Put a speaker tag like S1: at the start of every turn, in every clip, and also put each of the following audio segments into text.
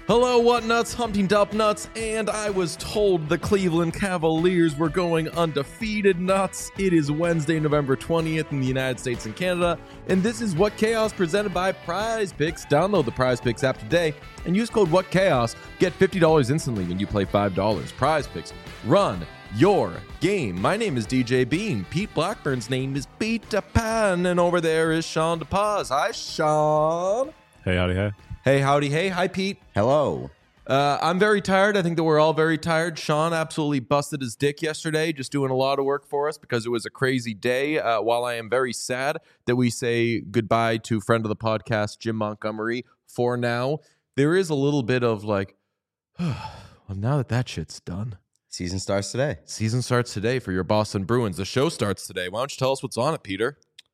S1: Hello, what nuts, Humpty Dump nuts, and I was told the Cleveland Cavaliers were going undefeated nuts. It is Wednesday, November 20th in the United States and Canada, and this is What Chaos presented by Prize Picks. Download the Prize Picks app today and use code What Chaos. Get $50 instantly when you play $5. Prize Picks. Run your game. My name is DJ Bean. Pete Blackburn's name is Peter Pan, and over there is Sean DePaz. Hi, Sean.
S2: Hey, howdy, hey.
S1: Hey, howdy, hey. Hi, Pete.
S3: Hello.
S1: I'm very tired. I think that we're all very tired. Sean absolutely busted his dick yesterday, just doing a lot of work for us because it was a crazy day. While I am very sad that we say goodbye to friend of the podcast, Jim Montgomery, for now, there is a little bit of like, well, now that shit's done.
S3: Season starts today.
S1: Season starts today for your Boston Bruins. The show starts today. Why don't you tell us what's on it, Peter?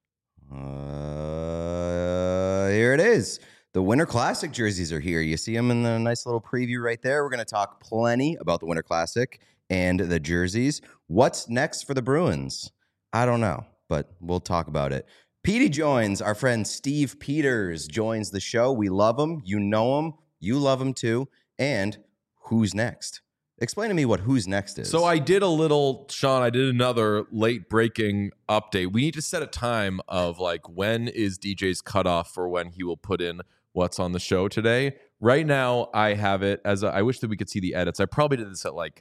S3: Here it is. The Winter Classic jerseys are here. You see them in the nice little preview right there. We're going to talk plenty about the Winter Classic and the jerseys. What's next for the Bruins? I don't know, but we'll talk about it. Petey joins. Our friend Steve Peters joins the show. We love him. You know him. You love him too. And who's next? Explain to me what who's next is.
S1: So I did another late breaking update. We need to set a time of like when is DJ's cutoff for when he will put in what's on the show today. Right now, I have it as I wish that we could see the edits. I probably did this at like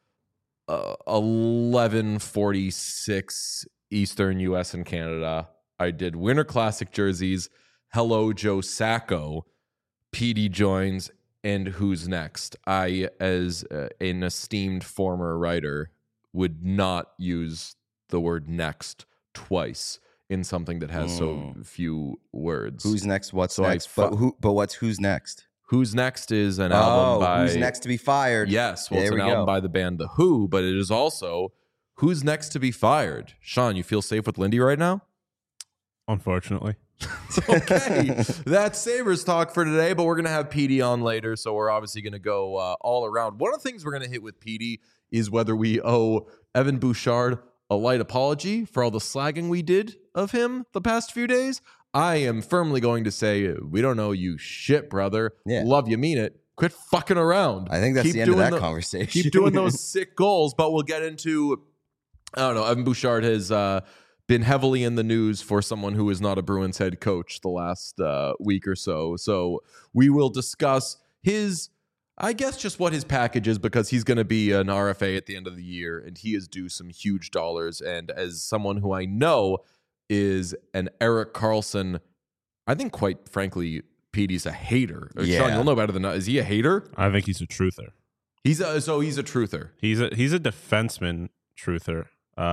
S1: 11:46 Eastern US and Canada. I did Winter Classic jerseys. Hello, Joe Sacco. PD joins. And who's next? I, as an esteemed former writer, would not use the word next twice in something that has so few words.
S3: Who's next? What's
S1: So
S3: next? But what's who's next?
S1: Who's Next is an album by...
S3: Who's Next to be Fired.
S1: Yes, well,
S3: there
S1: it's an album by the band The Who, but it is also Who's Next to be Fired. Sean, you feel safe with Lindy right now?
S2: Unfortunately.
S1: Okay, that's Sabres talk for today, but we're going to have PD on later, so we're obviously going to go all around. One of the things we're going to hit with PD is whether we owe Evan Bouchard a light apology for all the slagging we did of him the past few days. I am firmly going to say, we don't owe you shit, brother.
S3: Yeah.
S1: Love you, mean it. Quit fucking around.
S3: I think that's the end of that conversation.
S1: Keep doing those sick goals, but we'll get into, I don't know, Evan Bouchard has... been heavily in the news for someone who is not a Bruins head coach the last week or so. So we will discuss his, I guess, just what his package is, because he's going to be an RFA at the end of the year, and he is due some huge dollars. And as someone who I know is an Erik Karlsson, I think, quite frankly, Petey's a hater.
S3: Yeah.
S1: Sean, you'll know better than that. Is he a hater?
S2: I think he's a truther.
S1: He's a truther.
S2: He's a defenseman truther.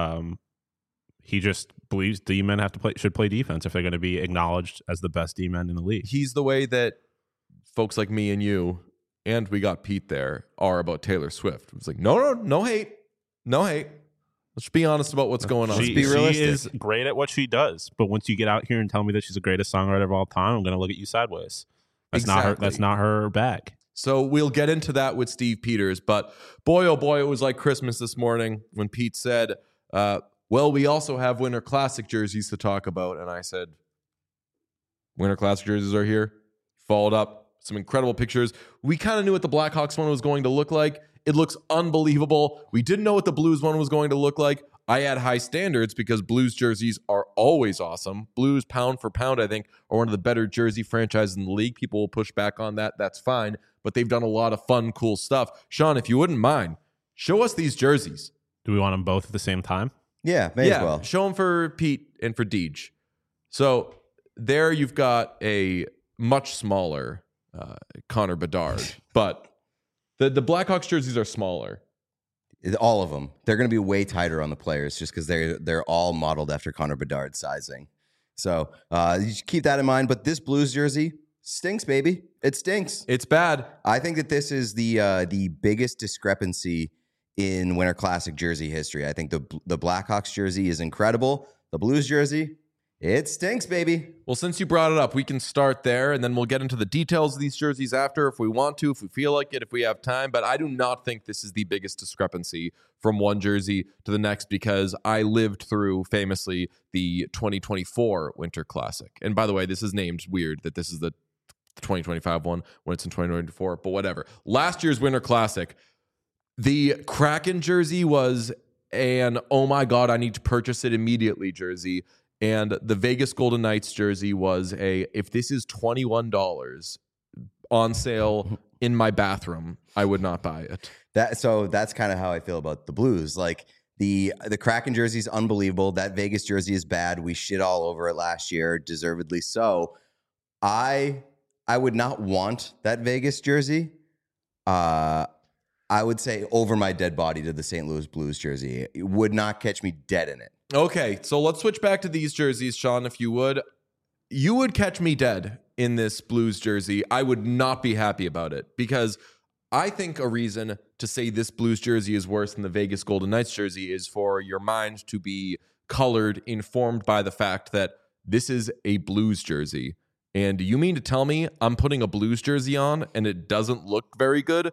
S2: He just believes D-men should play defense if they're going to be acknowledged as the best D-men in the league.
S1: He's the way that folks like me and you, and we got Pete there, are about Taylor Swift. It's like, no hate. Let's be honest about what's going on.
S2: She is great at what she does, but once you get out here and tell me that she's the greatest songwriter of all time, I'm going to look at you sideways. That's not her bag.
S1: So we'll get into that with Steve Peters, but boy, oh boy, it was like Christmas this morning when Pete said, well, we also have Winter Classic jerseys to talk about. And I said, Winter Classic jerseys are here. Followed up some incredible pictures. We kind of knew what the Blackhawks one was going to look like. It looks unbelievable. We didn't know what the Blues one was going to look like. I had high standards because Blues jerseys are always awesome. Blues, pound for pound, I think, are one of the better jersey franchises in the league. People will push back on that. That's fine. But they've done a lot of fun, cool stuff. Sean, if you wouldn't mind, show us these jerseys.
S2: Do we want them both at the same time?
S3: Yeah, may as well.
S1: Show them for Pete and for Deej. So there you've got a much smaller Connor Bedard, but the Blackhawks jerseys are smaller.
S3: All of them. They're going to be way tighter on the players just because they're all modeled after Connor Bedard sizing. So you should keep that in mind. But this Blues jersey stinks, baby. It stinks.
S1: It's bad.
S3: I think that this is the biggest discrepancy in Winter Classic jersey history. I think the Blackhawks jersey is incredible. The Blues jersey, it stinks, baby.
S1: Well, since you brought it up, we can start there, and then we'll get into the details of these jerseys after if we want to, if we feel like it, if we have time. But I do not think this is the biggest discrepancy from one jersey to the next, because I lived through, famously, the 2024 Winter Classic. And by the way, this is named weird, that this is the the 2025 one when it's in 2024, but whatever. Last year's Winter Classic, the Kraken jersey was an oh my God, I need to purchase it immediately jersey. And the Vegas Golden Knights jersey was if this is $21 on sale in my bathroom, I would not buy it.
S3: So that's kind of how I feel about the Blues. Like the Kraken jersey is unbelievable. That Vegas jersey is bad. We shit all over it last year, deservedly so. I would not want that Vegas jersey. I would say over my dead body to the St. Louis Blues jersey. It would not catch me dead in it.
S1: Okay, so let's switch back to these jerseys, Sean, if you would. You would catch me dead in this Blues jersey. I would not be happy about it because I think a reason to say this Blues jersey is worse than the Vegas Golden Knights jersey is for your mind to be colored, informed by the fact that this is a Blues jersey. And you mean to tell me I'm putting a Blues jersey on and it doesn't look very good?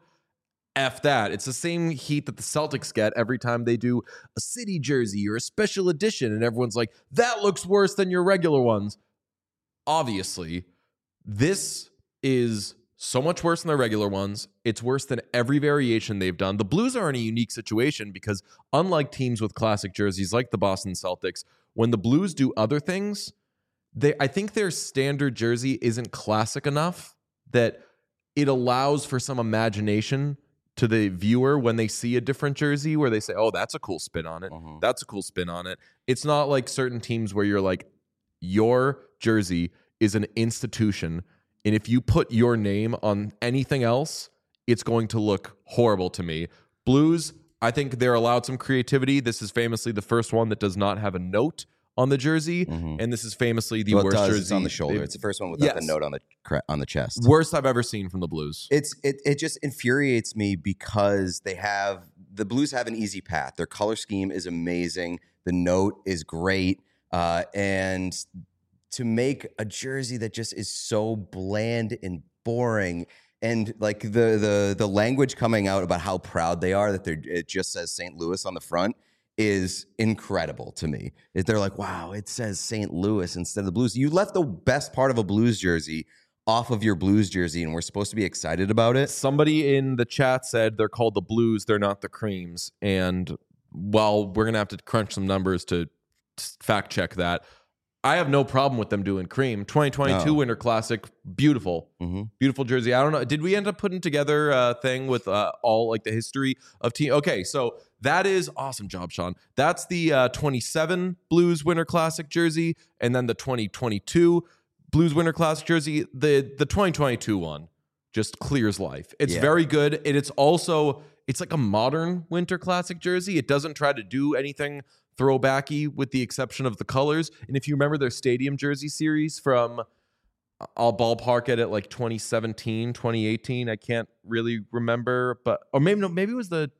S1: F that. It's the same heat that the Celtics get every time they do a city jersey or a special edition, and everyone's like, that looks worse than your regular ones. Obviously, this is so much worse than their regular ones. It's worse than every variation they've done. The Blues are in a unique situation because unlike teams with classic jerseys like the Boston Celtics, when the Blues do other things, I think their standard jersey isn't classic enough that it allows for some imagination to the viewer when they see a different jersey where they say, oh, that's a cool spin on it.
S3: Mhm.
S1: That's a cool spin on it. It's not like certain teams where you're like, your jersey is an institution. And if you put your name on anything else, it's going to look horrible to me. Blues, I think they're allowed some creativity. This is famously the first one that does not have a note on the jersey. And this is famously the worst jersey.
S3: It's on the shoulder. It's the first one without the note on the chest.
S1: Worst I've ever seen from the Blues.
S3: It just infuriates me because the Blues have an easy path. Their color scheme is amazing. The note is great. And to make a jersey that just is so bland and boring, and like the language coming out about how proud they are that it just says St. Louis on the front is incredible to me. They're like, wow, it says St. Louis instead of the Blues. You left the best part of a Blues jersey off of your Blues jersey, and we're supposed to be excited about it.
S1: Somebody in the chat said they're called the Blues, they're not the Creams. And while we're going to have to crunch some numbers to fact check that, I have no problem with them doing cream. 2022 Winter Classic, beautiful. Beautiful jersey. I don't know. Did we end up putting together a thing with all like the history of team? Okay, so that is awesome job, Sean. That's the 27 Blues Winter Classic jersey, and then the 2022 Blues Winter Classic jersey. The 2022 one just clears life. It's very good. And it's like a modern Winter Classic jersey. It doesn't try to do anything throwbacky with the exception of the colors. And if you remember their stadium jersey series from, I'll ballpark it at like 2017, 2018. I can't really remember, or maybe it was the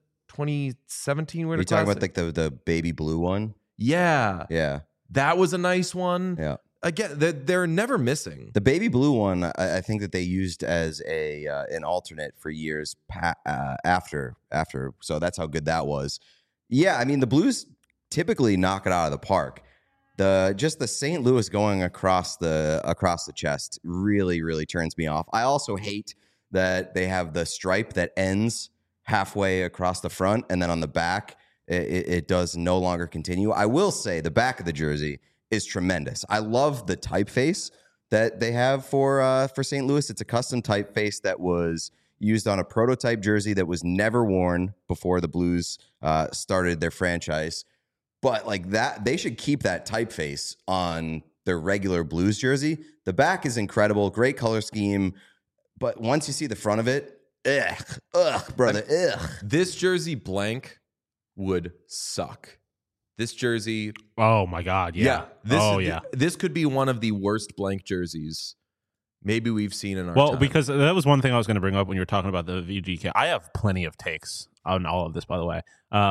S1: 2017 Winter Classic.
S3: You're talking about like the baby blue one?
S1: Yeah. That was a nice one.
S3: Yeah.
S1: Again, they're never missing.
S3: The baby blue one, I think that they used as an alternate for years after. So that's how good that was. Yeah, I mean, the Blues typically knock it out of the park. Just the St. Louis going across the chest really, really turns me off. I also hate that they have the stripe that ends halfway across the front, and then on the back, it does no longer continue. I will say the back of the jersey is tremendous. I love the typeface that they have for St. Louis. It's a custom typeface that was used on a prototype jersey that was never worn before the Blues started their franchise. But like that, they should keep that typeface on their regular Blues jersey. The back is incredible, great color scheme. But once you see the front of it, brother.
S1: This jersey blank would suck. This jersey.
S2: Oh my God. Yeah.
S1: This could be one of the worst blank jerseys maybe we've seen in our time.
S2: Because that was one thing I was going to bring up when you were talking about the VGK. I have plenty of takes on all of this, by the way.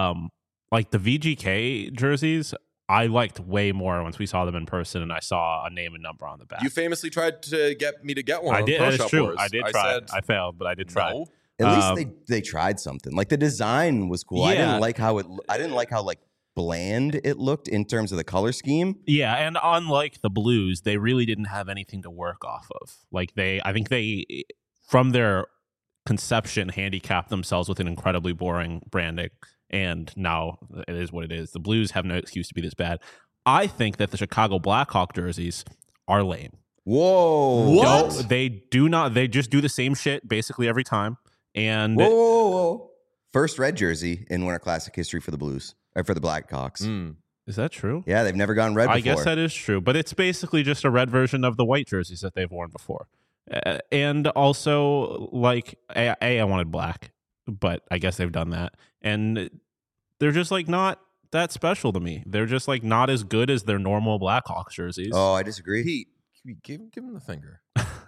S2: Like the VGK jerseys, I liked way more once we saw them in person and I saw a name and number on the back.
S1: You famously tried to get me to get one.
S2: I did. That is true.
S1: Wars.
S2: I did try. I failed, but I did try.
S3: At least they tried something. Like the design was cool.
S1: Yeah.
S3: I didn't like how like bland it looked in terms of the color scheme.
S2: Yeah, and unlike the Blues, they really didn't have anything to work off of. Like I think they, from their conception, handicapped themselves with an incredibly boring branding, and now it is what it is. The Blues have no excuse to be this bad. I think that the Chicago Blackhawk jerseys are lame.
S3: Whoa.
S1: What?
S2: They do not. They just do the same shit basically every time. And
S3: Whoa. First red jersey in Winter Classic history for the Blues, or for the Blackhawks.
S2: Is that true?
S3: Yeah, they've never gone red before.
S2: I guess that is true, but it's basically just a red version of the white jerseys that they've worn before. And also, like, I wanted black, but I guess they've done that. And they're just, like, not that special to me. They're just, like, not as good as their normal Blackhawks jerseys.
S3: Oh, I disagree.
S1: Pete, give him the finger.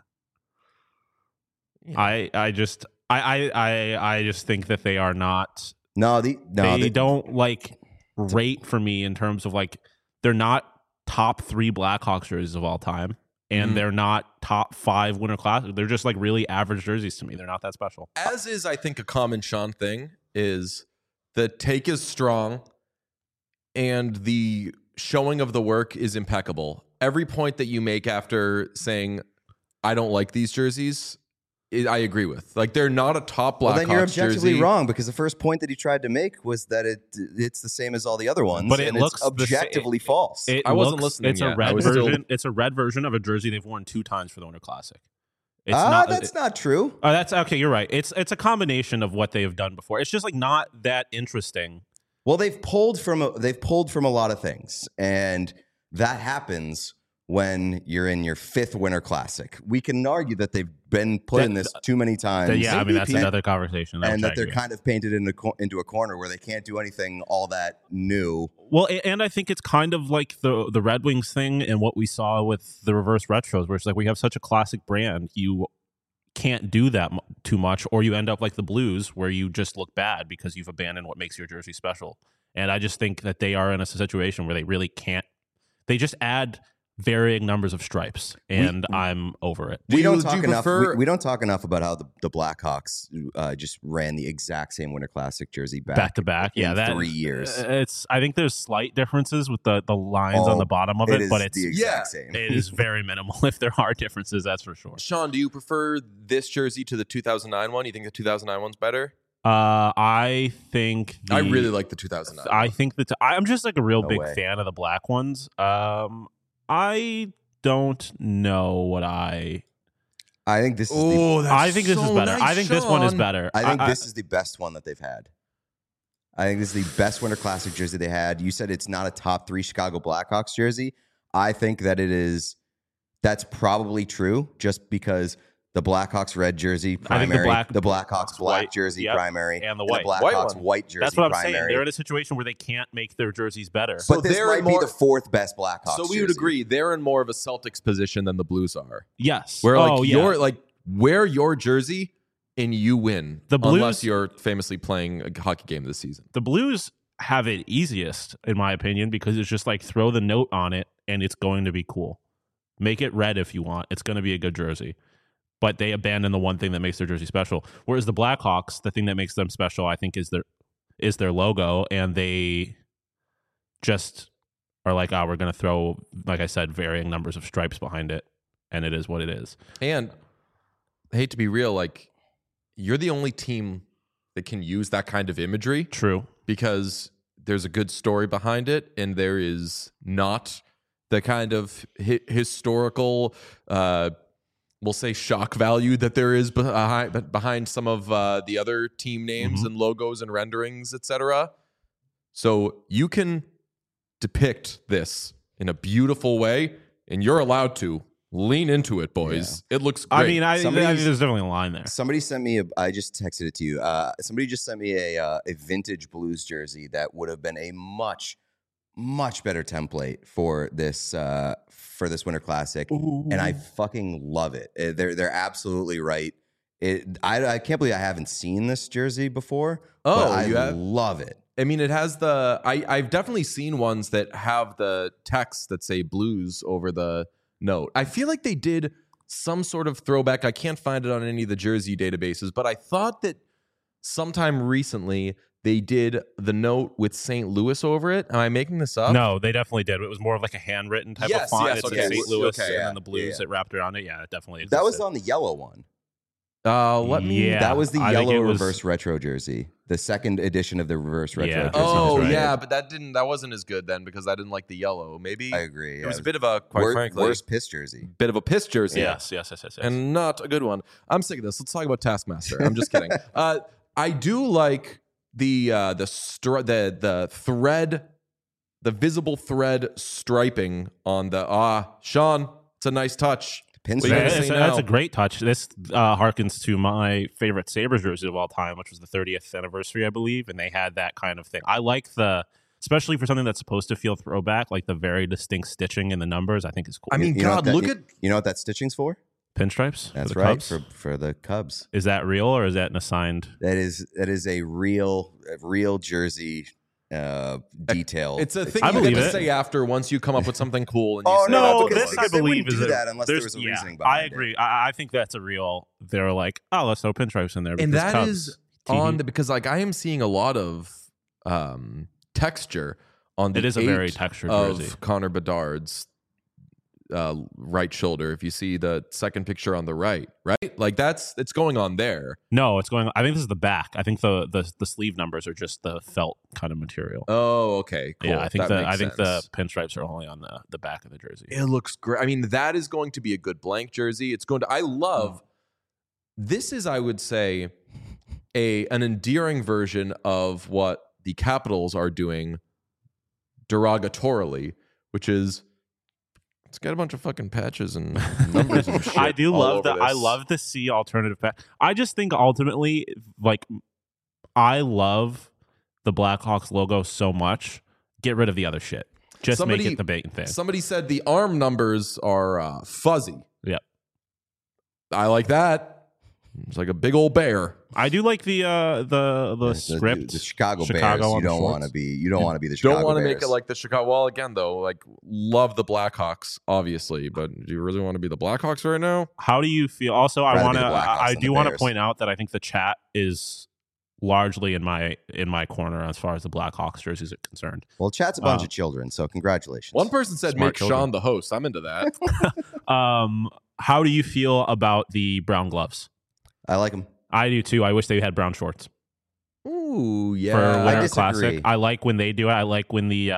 S2: Yeah. I just think that they are not.
S3: They
S2: don't like rate for me in terms of like they're not top 3 Blackhawks jerseys of all time, and they're not top 5 Winter Classic. They're just like really average jerseys to me. They're not that special.
S1: As is, I think, a common Sean thing is the take is strong and the showing of the work is impeccable. Every point that you make after saying, I don't like these jerseys, I agree with. Like, they're not a top Blackhawks
S3: Well, then you're objectively
S1: jersey.
S3: wrong, because the first point that he tried to make was that it's the same as all the other ones,
S2: But it
S3: and
S2: looks
S3: it's objectively false.
S1: I wasn't listening
S2: It's
S1: yet.
S2: a red
S1: I was
S2: version.
S1: still-
S2: It's a red version of a jersey they've worn 2 times for the Winter Classic. It's not.
S3: That's not true.
S2: Oh, that's okay. You're right. It's a combination of what they have done before. It's just like not that interesting.
S3: Well, they've pulled from a lot of things, and that happens when you're in your 5th Winter Classic. We can argue that they've been put in this too many times.
S2: Yeah, I mean that's another conversation.
S3: And that they're kind of painted into a corner where they can't do anything all that new.
S2: Well, and I think it's kind of like the Red Wings thing and what we saw with the reverse retros, where it's like we have such a classic brand, you can't do that too much, or you end up like the Blues, where you just look bad because you've abandoned what makes your jersey special. And I just think that they are in a situation where they really can't. They just add varying numbers of stripes, and I'm over it.
S3: We don't talk enough about how the Blackhawks just ran the exact same Winter Classic jersey back
S2: to back. Yeah,
S3: that 3 years.
S2: I think there's slight differences with the lines on the bottom of it, but it's
S3: the exact same.
S2: It is very minimal. If there are differences, that's for sure.
S1: Sean, do you prefer this jersey to the 2009 one? You think the 2009 one's better?
S2: I think
S1: I really like the 2009.
S2: I think that I'm just like a real big
S3: way.
S2: fan of the black ones. I don't know what
S3: I think this is
S2: I think this is better.
S1: Nice,
S2: I think this one is
S1: Sean.
S2: better.
S3: I think this is the best one that they've had. I think this is the best Winter Classic jersey they had. You said it's not a top 3 Chicago Blackhawks jersey. I think that it is. That's probably true, just because the Blackhawks red jersey primary, the Blackhawks black
S2: white,
S3: jersey primary,
S2: and the white.
S3: Blackhawks white jersey
S2: That's what I'm
S3: primary.
S2: saying. They're in a situation where they can't make their jerseys better.
S1: So
S3: But this
S1: they're
S3: might
S1: more-
S3: be the 4th best Blackhawks
S1: So we would
S3: jersey.
S1: agree they're in more of a Celtics position than the Blues are.
S2: Yes.
S1: Where like
S2: yeah.
S1: you're like wear your jersey and you win.
S2: The Blues-
S1: unless you're famously playing a hockey game this season.
S2: The Blues have it easiest, in my opinion, because it's just like throw the note on it and it's going to be cool. Make it red if you want. It's going to be a good jersey. But they abandon the one thing that makes their jersey special. Whereas the Blackhawks, the thing that makes them special, I think, is their logo, and they just are like, we're going to throw, like I said, varying numbers of stripes behind it, and it is what it is.
S1: And I hate to be real, like you're the only team that can use that kind of imagery
S2: True.
S1: because there's a good story behind it, and there is not the kind of historical, we'll say, shock value that there is behind some of the other team names and logos and renderings, etc. So you can depict this in a beautiful way, and you're allowed to lean into it, boys. It looks great.
S2: I mean, I think there's definitely a line there.
S3: Somebody sent me I just texted it to you. Somebody just sent me a vintage Blues jersey that would have been a much better template for this Winter Classic.
S2: Ooh.
S3: And I fucking love it. They're absolutely right. I can't believe I haven't seen this jersey before.
S1: Oh,
S3: but
S1: you
S3: I
S1: have?
S3: love it.
S1: I mean, it has I've definitely seen ones that have the text that say Blues over the note. I feel like they did some sort of throwback. I can't find it on any of the jersey databases, but I thought that sometime recently they did the note with St. Louis over it. Am I making this up?
S2: No, they definitely did. It was more of like a handwritten type
S1: Yes,
S2: of font.
S1: yes,
S2: It's
S1: okay.
S2: in St. Louis,
S1: Okay,
S2: and then the blues that wrapped around it. Yeah, it definitely existed.
S3: That was on the yellow one.
S1: Let me.
S2: Yeah.
S3: That was the
S2: I think
S3: yellow
S2: it was-
S3: reverse retro jersey. The second edition of the reverse retro
S2: Yeah.
S3: jersey.
S1: Oh
S3: was right.
S1: yeah, but that wasn't as good then because I didn't like the yellow. Maybe
S3: I agree.
S1: it was a bit of a quite frankly
S3: worst piss jersey.
S1: bit of a piss jersey.
S2: Yes.
S1: And not a good one. I'm sick of this. Let's talk about Taskmaster. I'm just kidding. I do like the thread, the visible thread striping on the Sean. It's a nice touch.
S3: Pins.
S1: What are you gonna say
S2: That's
S1: now?
S2: a great touch. This harkens to my favorite Sabres jersey of all time, which was the 30th anniversary, I believe, and they had that kind of thing. I like especially for something that's supposed to feel throwback, like the very distinct stitching in the numbers. I think is cool.
S1: I mean,
S3: You know what
S1: God,
S3: that-
S1: look at
S3: You know what that stitching's for?
S2: Pinstripes.
S3: That's
S2: for the
S3: right.
S2: Cubs?
S3: For the Cubs.
S2: Is that real or is that an assigned?
S3: That is a real jersey detail.
S1: it's a thing
S2: I
S1: you get
S2: believe
S1: to
S2: it.
S1: say after once you come up with something cool. And you
S3: Oh,
S1: say
S3: no,
S1: that's
S3: because
S1: cool.
S2: this I
S3: they
S2: believe
S3: wouldn't
S2: is
S3: do
S2: a-
S3: that unless there
S2: there's-
S3: was a
S2: yeah,
S3: reasoning behind
S2: I agree. I think that's a real. They're like, oh, let's throw pinstripes in there.
S1: And
S2: because
S1: that
S2: Cubs,
S1: is
S2: TV.
S1: on because like I am seeing a lot of texture on the
S2: It is a very
S1: 8
S2: textured
S1: of
S2: jersey.
S1: Connor Bedard's right shoulder. If you see the second picture on the right, like it's going on there.
S2: No, it's going. I think this is the back. I think the sleeve numbers are just the felt kind of material.
S1: Oh, okay, cool.
S2: Yeah, I think
S1: That makes
S2: the
S1: sense.
S2: pinstripes are only on the back of the jersey.
S1: It looks great. I mean, that is going to be a good blank jersey. It's going to. I love. This is, I would say, an endearing version of what the Capitals are doing derogatorily, which is it's got a bunch of fucking patches and numbers and shit.
S2: I do
S1: all
S2: love
S1: over
S2: that. I
S1: this.
S2: love to see alternative. I just think ultimately, like, I love the Blackhawks logo so much. Get rid of the other shit. Just make it the main thing.
S1: Somebody said the arm numbers are fuzzy.
S2: Yep.
S1: I like that. It's like a big old bear.
S2: I do like the script.
S3: The Chicago Bears.
S2: on
S3: You
S2: the
S3: don't
S2: shorts.
S3: want to be. You don't want to be the Chicago
S1: Don't want to
S3: Bears.
S1: make it like the Chicago. Well, again, though, like love the Blackhawks, obviously, but do you really want to be the Blackhawks right now?
S2: How do you feel? Also, I
S3: Rather
S2: want
S3: be
S2: to.
S3: the Blackhawks
S2: I
S3: than
S2: do
S3: the
S2: want to
S3: Bears.
S2: point out that I think the chat is largely in my corner as far as the Blackhawks jerseys are concerned.
S3: Well, chat's a bunch of children, so congratulations.
S1: One person said
S2: Smart
S1: make
S2: children.
S1: Sean the host. I'm into that.
S2: How do you feel about the brown gloves?
S3: I like them.
S2: I do too. I wish they had brown shorts
S1: Ooh,
S2: for
S1: yeah.
S2: Winter
S3: disagree.
S2: Classic. I like when they do it. I like when the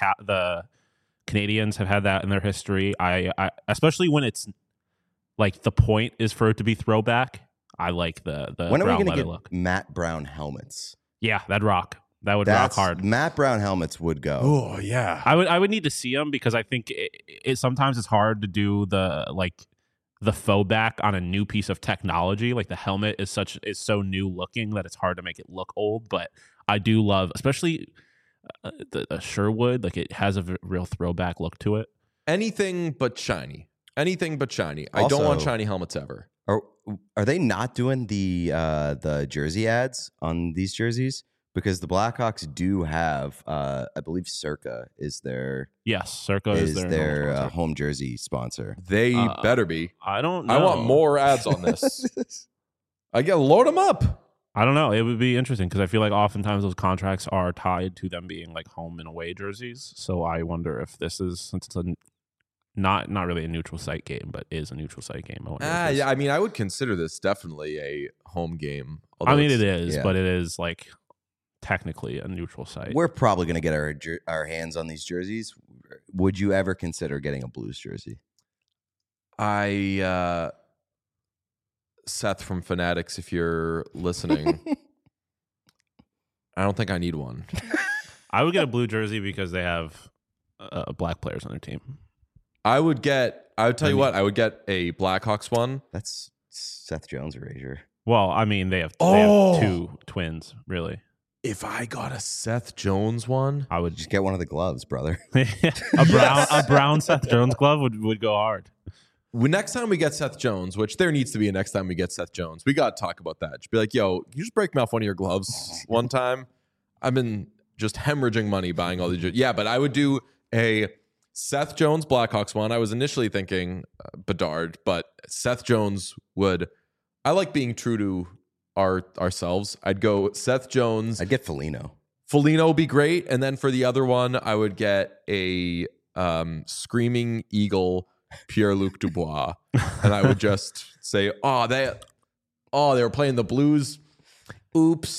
S2: Canadians have had that in their history. I especially when it's like the point is for it to be throwback. I like the
S3: When are we
S2: brown
S3: going to
S2: leather
S3: get
S2: look.
S3: Matt Brown helmets?
S2: Yeah, that'd rock. That would rock hard.
S3: Matt Brown helmets would go.
S1: Oh, yeah.
S2: I would need to see them because I think it sometimes it's hard to do the faux back on a new piece of technology. Like the helmet is so new looking that it's hard to make it look old. But I do love, especially the Sherwood. Like it has a real throwback look to it.
S1: Anything but shiny. Anything but shiny. I don't
S3: Also-
S1: want shiny helmets ever.
S3: Are they not doing the jersey ads on these jerseys? Because the Blackhawks do have, I believe, Circa is their
S2: Yes, Circa is their sponsor.
S3: home jersey sponsor.
S1: They better be.
S2: I don't know.
S1: I want more ads on this. I get load them up.
S2: I don't know. It would be interesting because I feel like oftentimes those contracts are tied to them being like home and away jerseys. So I wonder if this is, since it's not really a neutral site game, but is a neutral site game. I wonder if this-
S1: Yeah, I mean, I would consider this definitely a home game.
S2: I mean, it
S1: it's-
S2: is,
S3: yeah.
S2: but it is like technically a neutral site.
S3: We're probably going to get our hands on these jerseys. Would you ever consider getting a Blues jersey?
S1: Seth from Fanatics, if you're listening, I don't think I need one.
S2: I would get a blue jersey because they have black players on their team.
S1: I would tell you what, I would get a Blackhawks one.
S3: That's Seth Jones erasure.
S2: Well, I mean, they have
S1: Oh!
S2: two twins, really.
S1: If I got a Seth Jones one,
S2: I would
S3: Just get one of the gloves, brother.
S2: a brown Seth Jones glove would go hard.
S1: next time we get Seth Jones, which there needs to be a next time we get Seth Jones, we got to talk about that. Just be like, yo, you just break me off one of your gloves one time. I've been just hemorrhaging money buying all these. Yeah, but I would do a Seth Jones Blackhawks one. I was initially thinking Bedard, but Seth Jones would. I like being true to ourselves, I'd go Seth Jones.
S3: I'd get Foligno.
S1: Foligno would be great. And then for the other one, I would get a Screaming Eagle, Pierre-Luc Dubois. And I would just say, they were playing the Blues. Oops.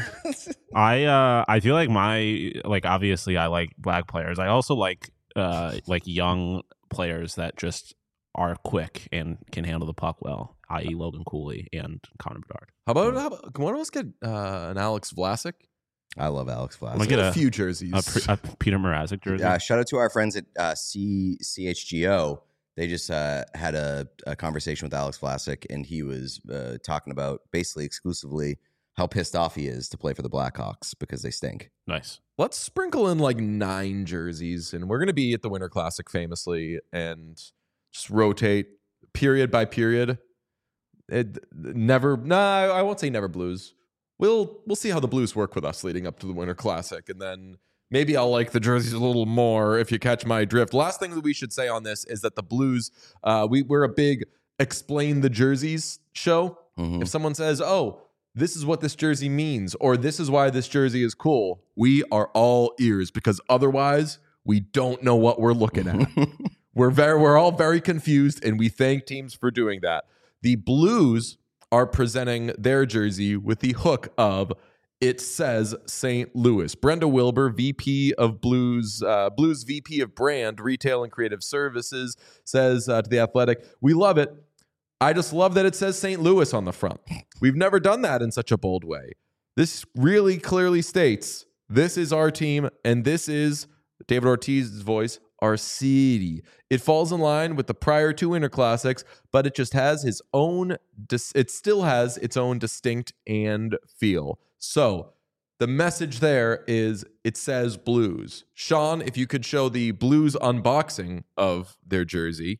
S2: I feel like obviously I like black players. I also like young players that just are quick and can handle the puck well, i.e. Logan Cooley and Connor Bedard.
S1: How about can one of us get an Alex Vlasic?
S3: I love Alex Vlasic.
S2: I'm gonna get
S1: a few jerseys.
S2: A Peter Mrazek jersey.
S3: Shout out to our friends at CHGO. They just had a conversation with Alex Vlasic, and he was talking about basically exclusively how pissed off he is to play for the Blackhawks because they stink.
S2: Nice.
S1: Let's sprinkle in like 9 jerseys, and we're going to be at the Winter Classic famously and just rotate period by period. I won't say never Blues. We'll see how the Blues work with us leading up to the Winter Classic, and then maybe I'll like the jerseys a little more if you catch my drift. Last thing that we should say on this is that the Blues, we're a big explain the jerseys show.
S3: Mm-hmm.
S1: If someone says, this is what this jersey means, or this is why this jersey is cool, we are all ears, because otherwise we don't know what we're looking at. We're all very confused, and we thank teams for doing that. The Blues are presenting their jersey with the hook of "It says St. Louis." Brenda Wilbur, VP of Blues VP of Brand, Retail and Creative Services, says to The Athletic, "We love it. I just love that it says St. Louis on the front. We've never done that in such a bold way. This really clearly states this is our team, and this is," David Ortiz's voice, "our city. It falls in line with the prior 2 Winter Classics, but it just has it still has its own distinct and feel." So the message there is it says Blues. Sean, if you could show the Blues unboxing of their jersey.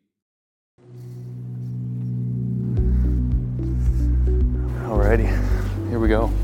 S4: Alrighty, here we go.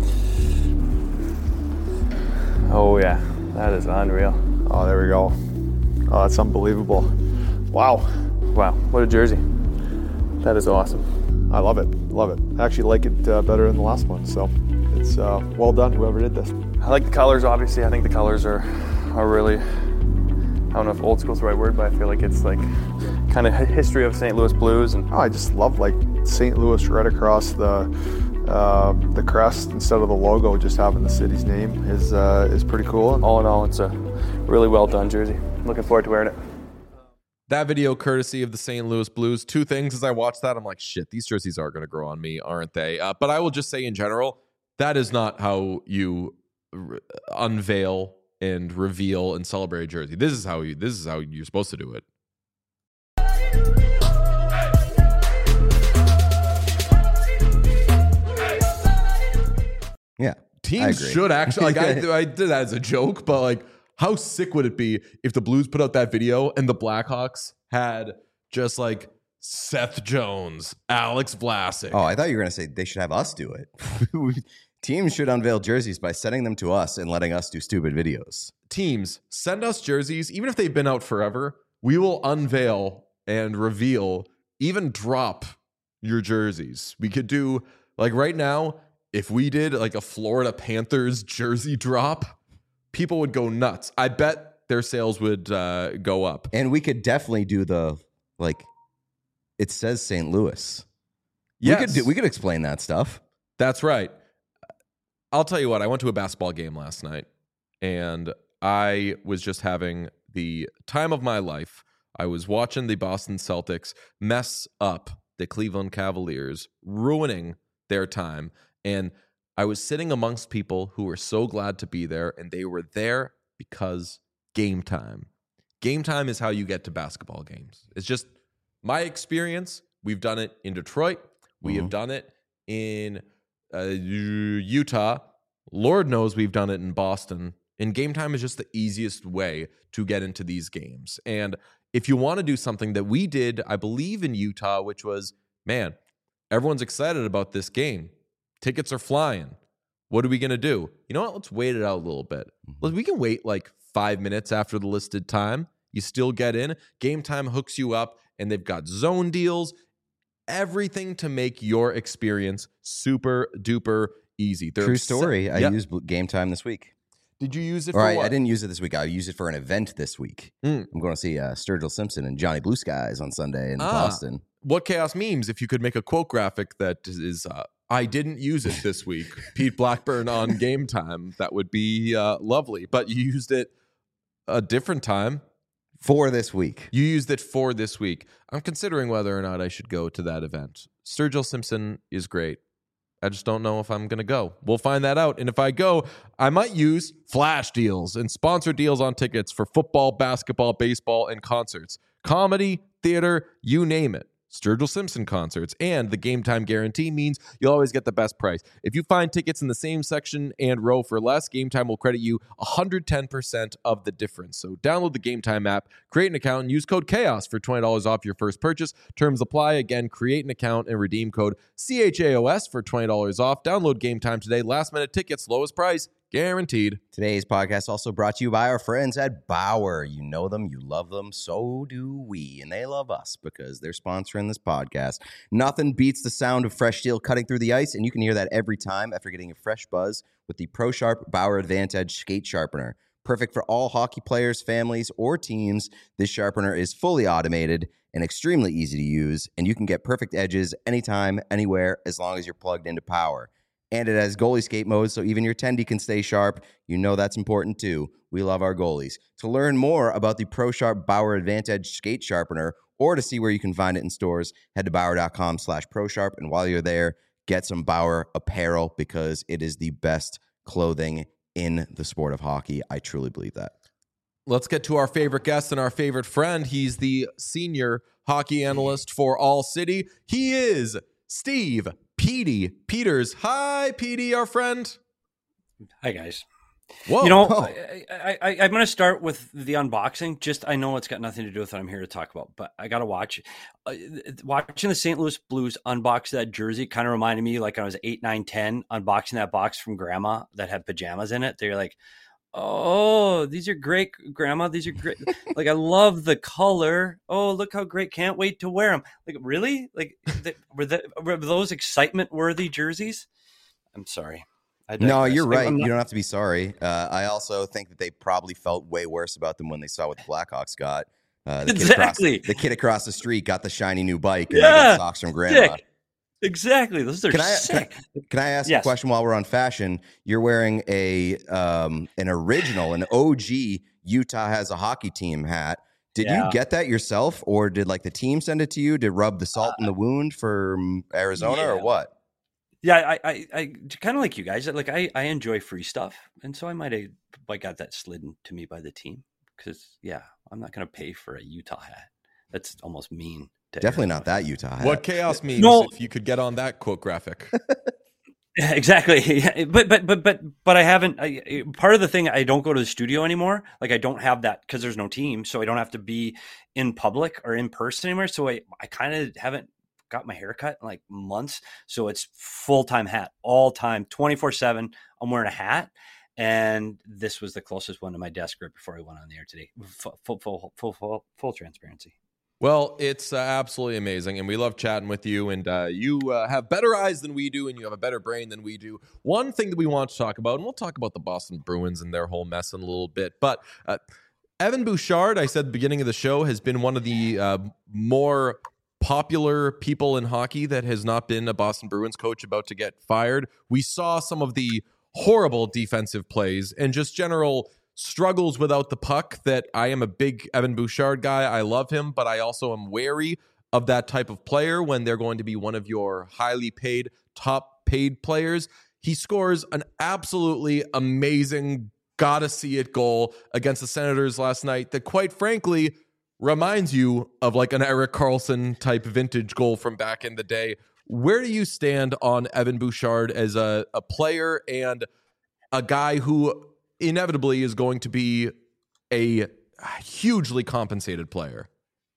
S4: Oh yeah, that is unreal.
S5: Oh, there we go. Oh, that's unbelievable. Wow.
S4: Wow, what a jersey. That is awesome.
S5: I love it. Love it. I actually like it better than the last one. So it's well done, whoever did this.
S4: I like the colors, obviously. I think the colors are really, I don't know if old school is the right word, but I feel like it's like kind of history of St. Louis Blues. And
S5: I just love like St. Louis right across the crest instead of the logo, just having the city's name is pretty cool.
S4: All in all, it's a really well done jersey. Looking forward to wearing it.
S1: That video courtesy of the St. Louis Blues. 2 things as I watched that, I'm like, shit, these jerseys are going to grow on me, aren't they? But I will just say in general, that is not how you unveil and reveal and celebrate a jersey. This is how you're supposed to do it.
S3: Yeah.
S1: Teams should actually, like, I did that as a joke, but like, how sick would it be if the Blues put out that video and the Blackhawks had just like Seth Jones, Alex Vlasic?
S3: Oh, I thought you were going to say they should have us do it. Teams should unveil jerseys by sending them to us and letting us do stupid videos.
S1: Teams, send us jerseys, even if they've been out forever. We will unveil and reveal, even drop your jerseys. We could do, like right now, if we did like a Florida Panthers jersey drop, people would go nuts. I bet their sales would go up.
S3: And we could definitely do the, like, it says St. Louis.
S1: Yes.
S3: We could explain that stuff.
S1: That's right. I'll tell you what, I went to a basketball game last night, and I was just having the time of my life. I was watching the Boston Celtics mess up the Cleveland Cavaliers, ruining their time. And I was sitting amongst people who were so glad to be there, and they were there because game time. Game time is how you get to basketball games. It's just my experience. We've done it in Detroit. We have done it in Utah. Lord knows we've done it in Boston. And game time is just the easiest way to get into these games. And if you want to do something that we did, I believe in Utah, which was, man, everyone's excited about this game. Tickets are flying. What are we going to do? You know what? Let's wait it out a little bit. We can wait like 5 minutes after the listed time. You still get in. Game time hooks you up, and they've got zone deals. everything to make your experience super duper easy.
S3: True story. I used Game Time this week.
S1: Did you use it
S3: Or
S1: for what?
S3: I didn't use it this week. I used it for an event this week. I'm going to see Sturgill Simpson and Johnny Blue Skies on Sunday in Boston.
S1: What Chaos memes, if you could make a quote graphic that is, I didn't use it this week, Pete Blackburn on Game Time, that would be lovely. But you used it a different time.
S3: For this week.
S1: You used it for this week. I'm considering whether or not I should go to that event. Sturgill Simpson is great. I just don't know if I'm going to go. We'll find that out. And if I go, I might use flash deals and sponsor deals on tickets for football, basketball, baseball, and concerts. Comedy, theater, you name it. Sturgill Simpson concerts and the Game Time guarantee means you'll always get the best price. If you find tickets in the same section and row for less, Game Time will credit you 110% of the difference. So download the Game Time app, create an account, and use code CHAOS for $20 off your first purchase. Terms apply. Again, create an account and redeem code CHAOS for $20 off. Download Game Time today. Last minute tickets, lowest price, guaranteed.
S3: Today's podcast also brought to you by our friends at Bauer. You know them, you love them, so do we. And they love us because they're sponsoring this podcast. Nothing beats the sound of fresh steel cutting through the ice, and you can hear that every time after getting a fresh buzz with the ProSharp Bauer Advantage Skate Sharpener. Perfect for all hockey players, families, or teams, this sharpener is fully automated and extremely easy to use, and you can get perfect edges anytime, anywhere, as long as you're plugged into power. And it has goalie skate mode, so even your tendy can stay sharp. You know that's important too. We love our goalies. To learn more about the ProSharp Bauer Advantage Skate Sharpener, or to see where you can find it in stores, head to Bauer.com/ProSharp. And while you're there, get some Bauer apparel because it is the best clothing in the sport of hockey. I truly believe that.
S1: Let's get to our favorite guest and our favorite friend. He's the senior hockey analyst for All City. He is Steve Petey Peters. Hi, Petey, our friend.
S6: Hi, guys.
S1: Whoa.
S6: You know, I'm going to start with the unboxing. I know it's got nothing to do with what I'm here to talk about, but I got to watch. Watching the St. Louis Blues unbox that jersey kind of reminded me like when I was 8, 9, 10, unboxing that box from Grandma that had pajamas in it. They're like, oh, these are great, Grandma. These are great. Like, I love the color. Oh, look how great. Can't wait to wear them. Like, really? Like, were those excitement-worthy jerseys? I'm sorry.
S3: No, you're right. You don't have to be sorry. I also think that they probably felt way worse about them when they saw what the Blackhawks got.
S6: Exactly.
S3: The kid across the street got the shiny new bike and they got socks from Grandma.
S6: Sick. Exactly. Those are sick.
S3: Can I ask a question while we're on fashion? You're wearing an original, an OG Utah Has a Hockey Team hat. Did you get that yourself, or did like the team send it to you to rub the salt in the wound for Arizona, or what?
S6: Yeah, I kind of like you guys. Like I enjoy free stuff, and so I might have got that slidden to me by the team because I'm not going to pay for a Utah hat. That's almost mean.
S3: Definitely not that Utah hat.
S1: What chaos means if you could get on that quote graphic.
S6: Yeah, exactly. But I haven't. Part of the thing, I don't go to the studio anymore. Like I don't have that because there's no team, so I don't have to be in public or in person anymore. So I kind of haven't got my hair cut in like months. So it's full-time hat all time, 24/7. I'm wearing a hat. And this was the closest one to my desk right before I went on the air today. Full transparency.
S1: Well, it's absolutely amazing, and we love chatting with you, and you have better eyes than we do, and you have a better brain than we do. One thing that we want to talk about, and we'll talk about the Boston Bruins and their whole mess in a little bit, but Evan Bouchard, I said at the beginning of the show, has been one of the more popular people in hockey that has not been a Boston Bruins coach about to get fired. We saw some of the horrible defensive plays and just general struggles without the puck that I am a big Evan Bouchard guy. I love him, but I also am wary of that type of player when they're going to be one of your highly paid, top paid players. He scores an absolutely amazing, gotta see it goal against the Senators last night that quite frankly reminds you of like an Erik Karlsson type vintage goal from back in the day. Where do you stand on Evan Bouchard as a player and a guy who inevitably is going to be a hugely compensated player?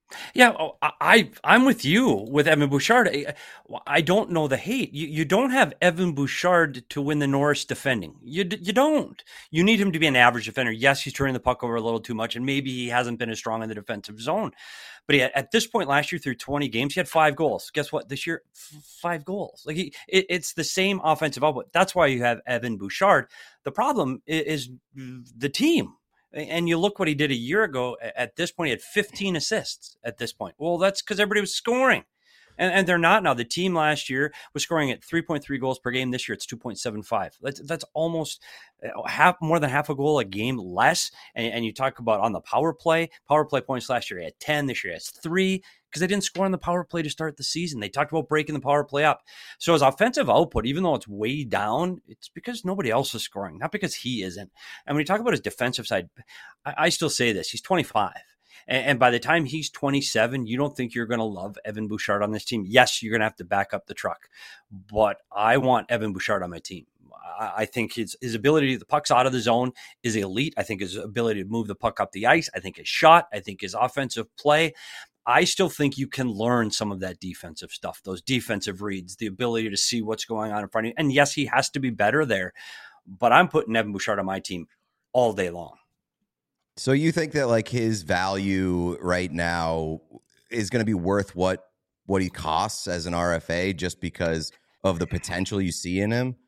S6: Yeah, I'm with you with Evan Bouchard. I don't know the hate. You don't have Evan Bouchard to win the Norris defending. You don't. You need him to be an average defender. Yes, he's turning the puck over a little too much, and maybe he hasn't been as strong in the defensive zone. But at this point last year, through 20 games, he had 5 goals. Guess what? This year, 5 goals. Like it's the same offensive output. That's why you have Evan Bouchard. The problem is the team. And you look what he did a year ago. At this point, he had 15 assists at this point. Well, that's because everybody was scoring. And they're not now. The team last year was scoring at 3.3 goals per game. This year, it's 2.75. That's almost more than half a goal a game less. And you talk about on the power play points last year, he had 10. This year, he has 3 because they didn't score on the power play to start the season. They talked about breaking the power play up. So his offensive output, even though it's way down, it's because nobody else is scoring, not because he isn't. And when you talk about his defensive side, I still say this. He's 25. And by the time he's 27, you don't think you're going to love Evan Bouchard on this team. Yes, you're going to have to back up the truck. But I want Evan Bouchard on my team. I think his ability to the puck's out of the zone is elite. I think his ability to move the puck up the ice. I think his shot. I think his offensive play. I still think you can learn some of that defensive stuff, those defensive reads, the ability to see what's going on in front of you. And yes, he has to be better there. But I'm putting Evan Bouchard on my team all day long.
S3: So you think that like his value right now is going to be worth what he costs as an RFA just because of the potential you see in him?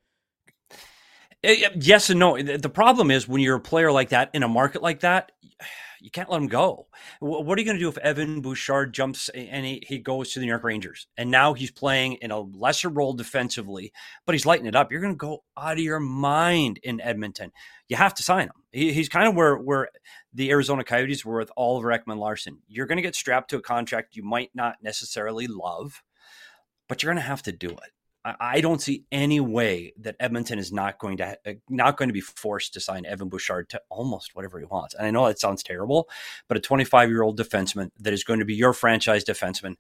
S6: Yes and no. The problem is when you're a player like that in a market like that, you can't let him go. What are you going to do if Evan Bouchard jumps and he goes to the New York Rangers and now he's playing in a lesser role defensively, but he's lighting it up? You're going to go out of your mind in Edmonton. You have to sign him. He's kind of where the Arizona Coyotes were with Oliver Ekman-Larsson. You're going to get strapped to a contract you might not necessarily love, but you're going to have to do it. I don't see any way that Edmonton is not going to be forced to sign Evan Bouchard to almost whatever he wants. And I know that sounds terrible, but a 25-year-old defenseman that is going to be your franchise defenseman,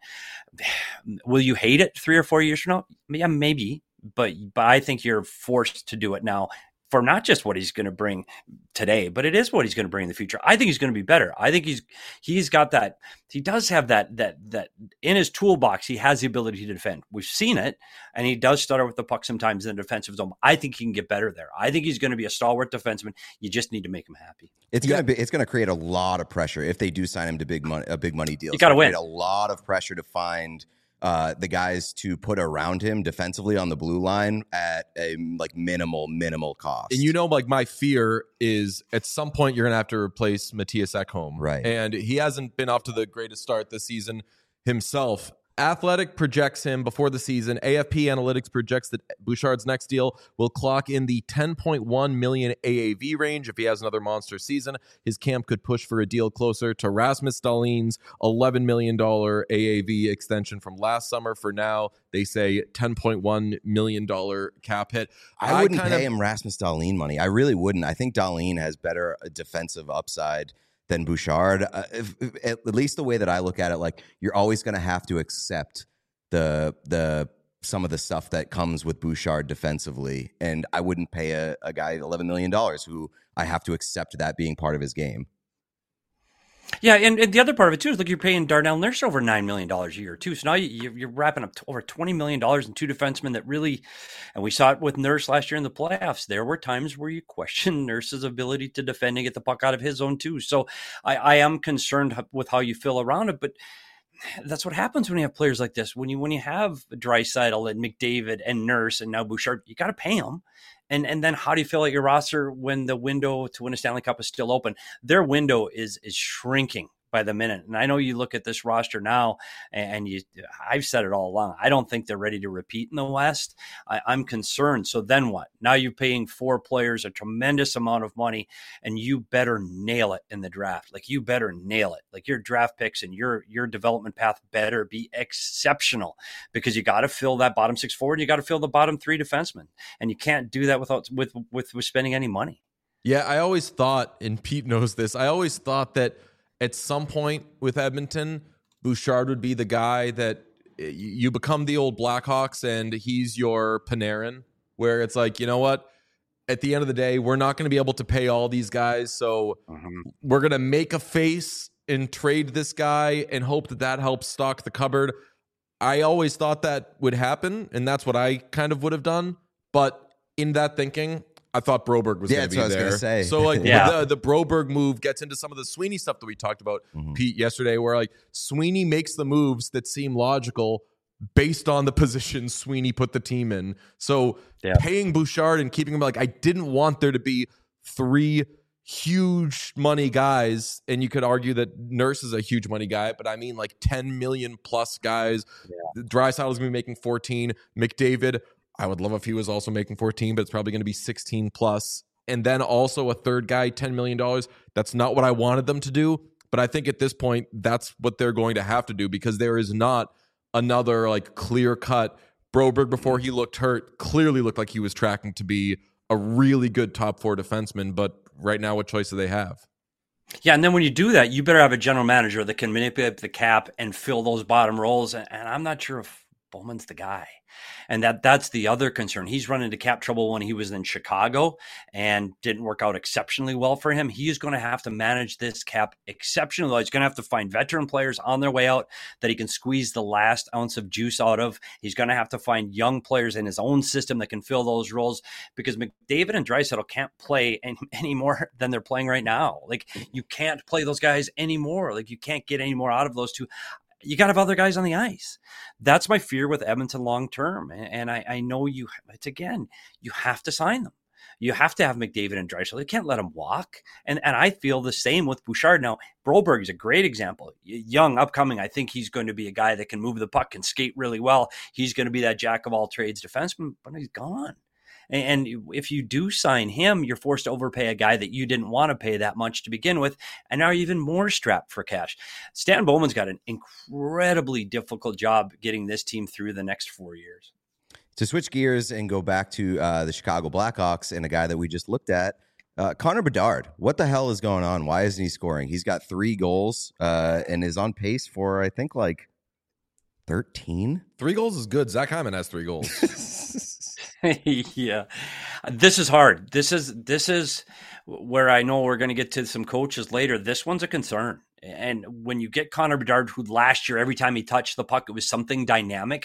S6: will you hate it 3 or 4 years from now? Yeah, maybe, but I think you're forced to do it now for not just what he's going to bring today, but it is what he's going to bring in the future. I think he's going to be better. I think he's got that. He does have that in his toolbox. He has the ability to defend. We've seen it, and he does stutter with the puck sometimes in the defensive zone. I think he can get better there. I think he's going to be a stalwart defenseman. You just need to make him happy.
S3: It's going to create a lot of pressure if they do sign him to a big money deal.
S6: You got to win.
S3: A lot of pressure to find the guys to put around him defensively on the blue line at a like minimal cost.
S1: And like my fear is at some point you're going to have to replace Matthias Ekholm.
S3: Right.
S1: And he hasn't been off to the greatest start this season himself. Athletic projects him before the season. AFP Analytics projects that Bouchard's next deal will clock in the $10.1 million AAV range. If he has another monster season, his camp could push for a deal closer to Rasmus Dahlin's $11 million AAV extension from last summer. For now, they say $10.1 million cap hit.
S3: I wouldn't pay him Rasmus Dahlin money. I really wouldn't. I think Dahlin has better defensive upside than Bouchard. At least the way that I look at it, like you're always going to have to accept the some of the stuff that comes with Bouchard defensively, and I wouldn't pay a guy $11 million who I have to accept that being part of his game.
S6: Yeah, and the other part of it, too, is like you're paying Darnell Nurse over $9 million a year, too. So now you're wrapping up over $20 million in 2 defensemen that really, and we saw it with Nurse last year in the playoffs. There were times where you question Nurse's ability to defend and get the puck out of his zone, too. So I am concerned with how you feel around it, but that's what happens when you have players like this. When you have Draisaitl and McDavid and Nurse and now Bouchard, you got to pay them. And then how do you fill out your roster when the window to win a Stanley Cup is still open? Their window is shrinking by the minute. And I know you look at this roster now, and I've said it all along. I don't think they're ready to repeat in the West. I'm concerned. So then what? Now you're paying 4 players a tremendous amount of money, and you better nail it in the draft. Like, you better nail it. Like, your draft picks and your development path better be exceptional, because you got to fill that bottom 6 forward. You got to fill the bottom 3 defensemen, and you can't do that without spending any money.
S1: Yeah, I always thought, and Pete knows this, I always thought that at some point with Edmonton, Bouchard would be the guy that you become the old Blackhawks and he's your Panarin, where it's like, you know what? At the end of the day, we're not going to be able to pay all these guys, so we're going to make a face and trade this guy and hope that helps stock the cupboard. I always thought that would happen, and that's what I kind of would have done. But in that thinking, I thought Broberg was going to be there.
S3: That's what I was going to say.
S1: So like
S6: Yeah.
S1: the Broberg move gets into some of the Sweeney stuff that we talked about, Pete, yesterday, where like Sweeney makes the moves that seem logical based on the position Sweeney put the team in. So paying Bouchard and keeping him, like, I didn't want there to be 3 huge money guys, and you could argue that Nurse is a huge money guy, but I mean like 10 million plus guys. Draisaitl is going to be making 14. McDavid, I would love if he was also making 14, but it's probably going to be 16 plus. And then also a third guy, $10 million. That's not what I wanted them to do, but I think at this point, that's what they're going to have to do, because there is not another like clear cut. Broberg, before he looked hurt, clearly looked like he was tracking to be a really good top 4 defenseman, but right now, what choice do they have?
S6: Yeah, and then when you do that, you better have a general manager that can manipulate the cap and fill those bottom roles. And I'm not sure if Bowman's the guy. And that's the other concern. He's run into cap trouble when he was in Chicago and didn't work out exceptionally well for him. He is going to have to manage this cap exceptionally well. He's going to have to find veteran players on their way out that he can squeeze the last ounce of juice out of. He's going to have to find young players in his own system that can fill those roles, because McDavid and Draisaitl can't play any more than they're playing right now. Like, you can't play those guys anymore. Like, you can't get any more out of those two. You got to have other guys on the ice. That's my fear with Edmonton long term. And I know you have to sign them. You have to have McDavid and Draisaitl. You can't let them walk. And I feel the same with Bouchard. Now, Broberg is a great example. Young, upcoming. I think he's going to be a guy that can move the puck and skate really well. He's going to be that jack of all trades defenseman, but he's gone. And if you do sign him, you're forced to overpay a guy that you didn't want to pay that much to begin with, and now you're even more strapped for cash. Stan Bowman's got an incredibly difficult job getting this team through the next 4 years.
S3: To switch gears and go back to the Chicago Blackhawks and a guy that we just looked at, Connor Bedard. What the hell is going on? Why isn't he scoring? He's got 3 goals and is on pace for, I think, like 13.
S1: 3 goals is good. Zach Hyman has 3 goals.
S6: Yeah, this is hard. This is where I know we're going to get to some coaches later. This one's a concern. And when you get Connor Bedard, who last year, every time he touched the puck, it was something dynamic.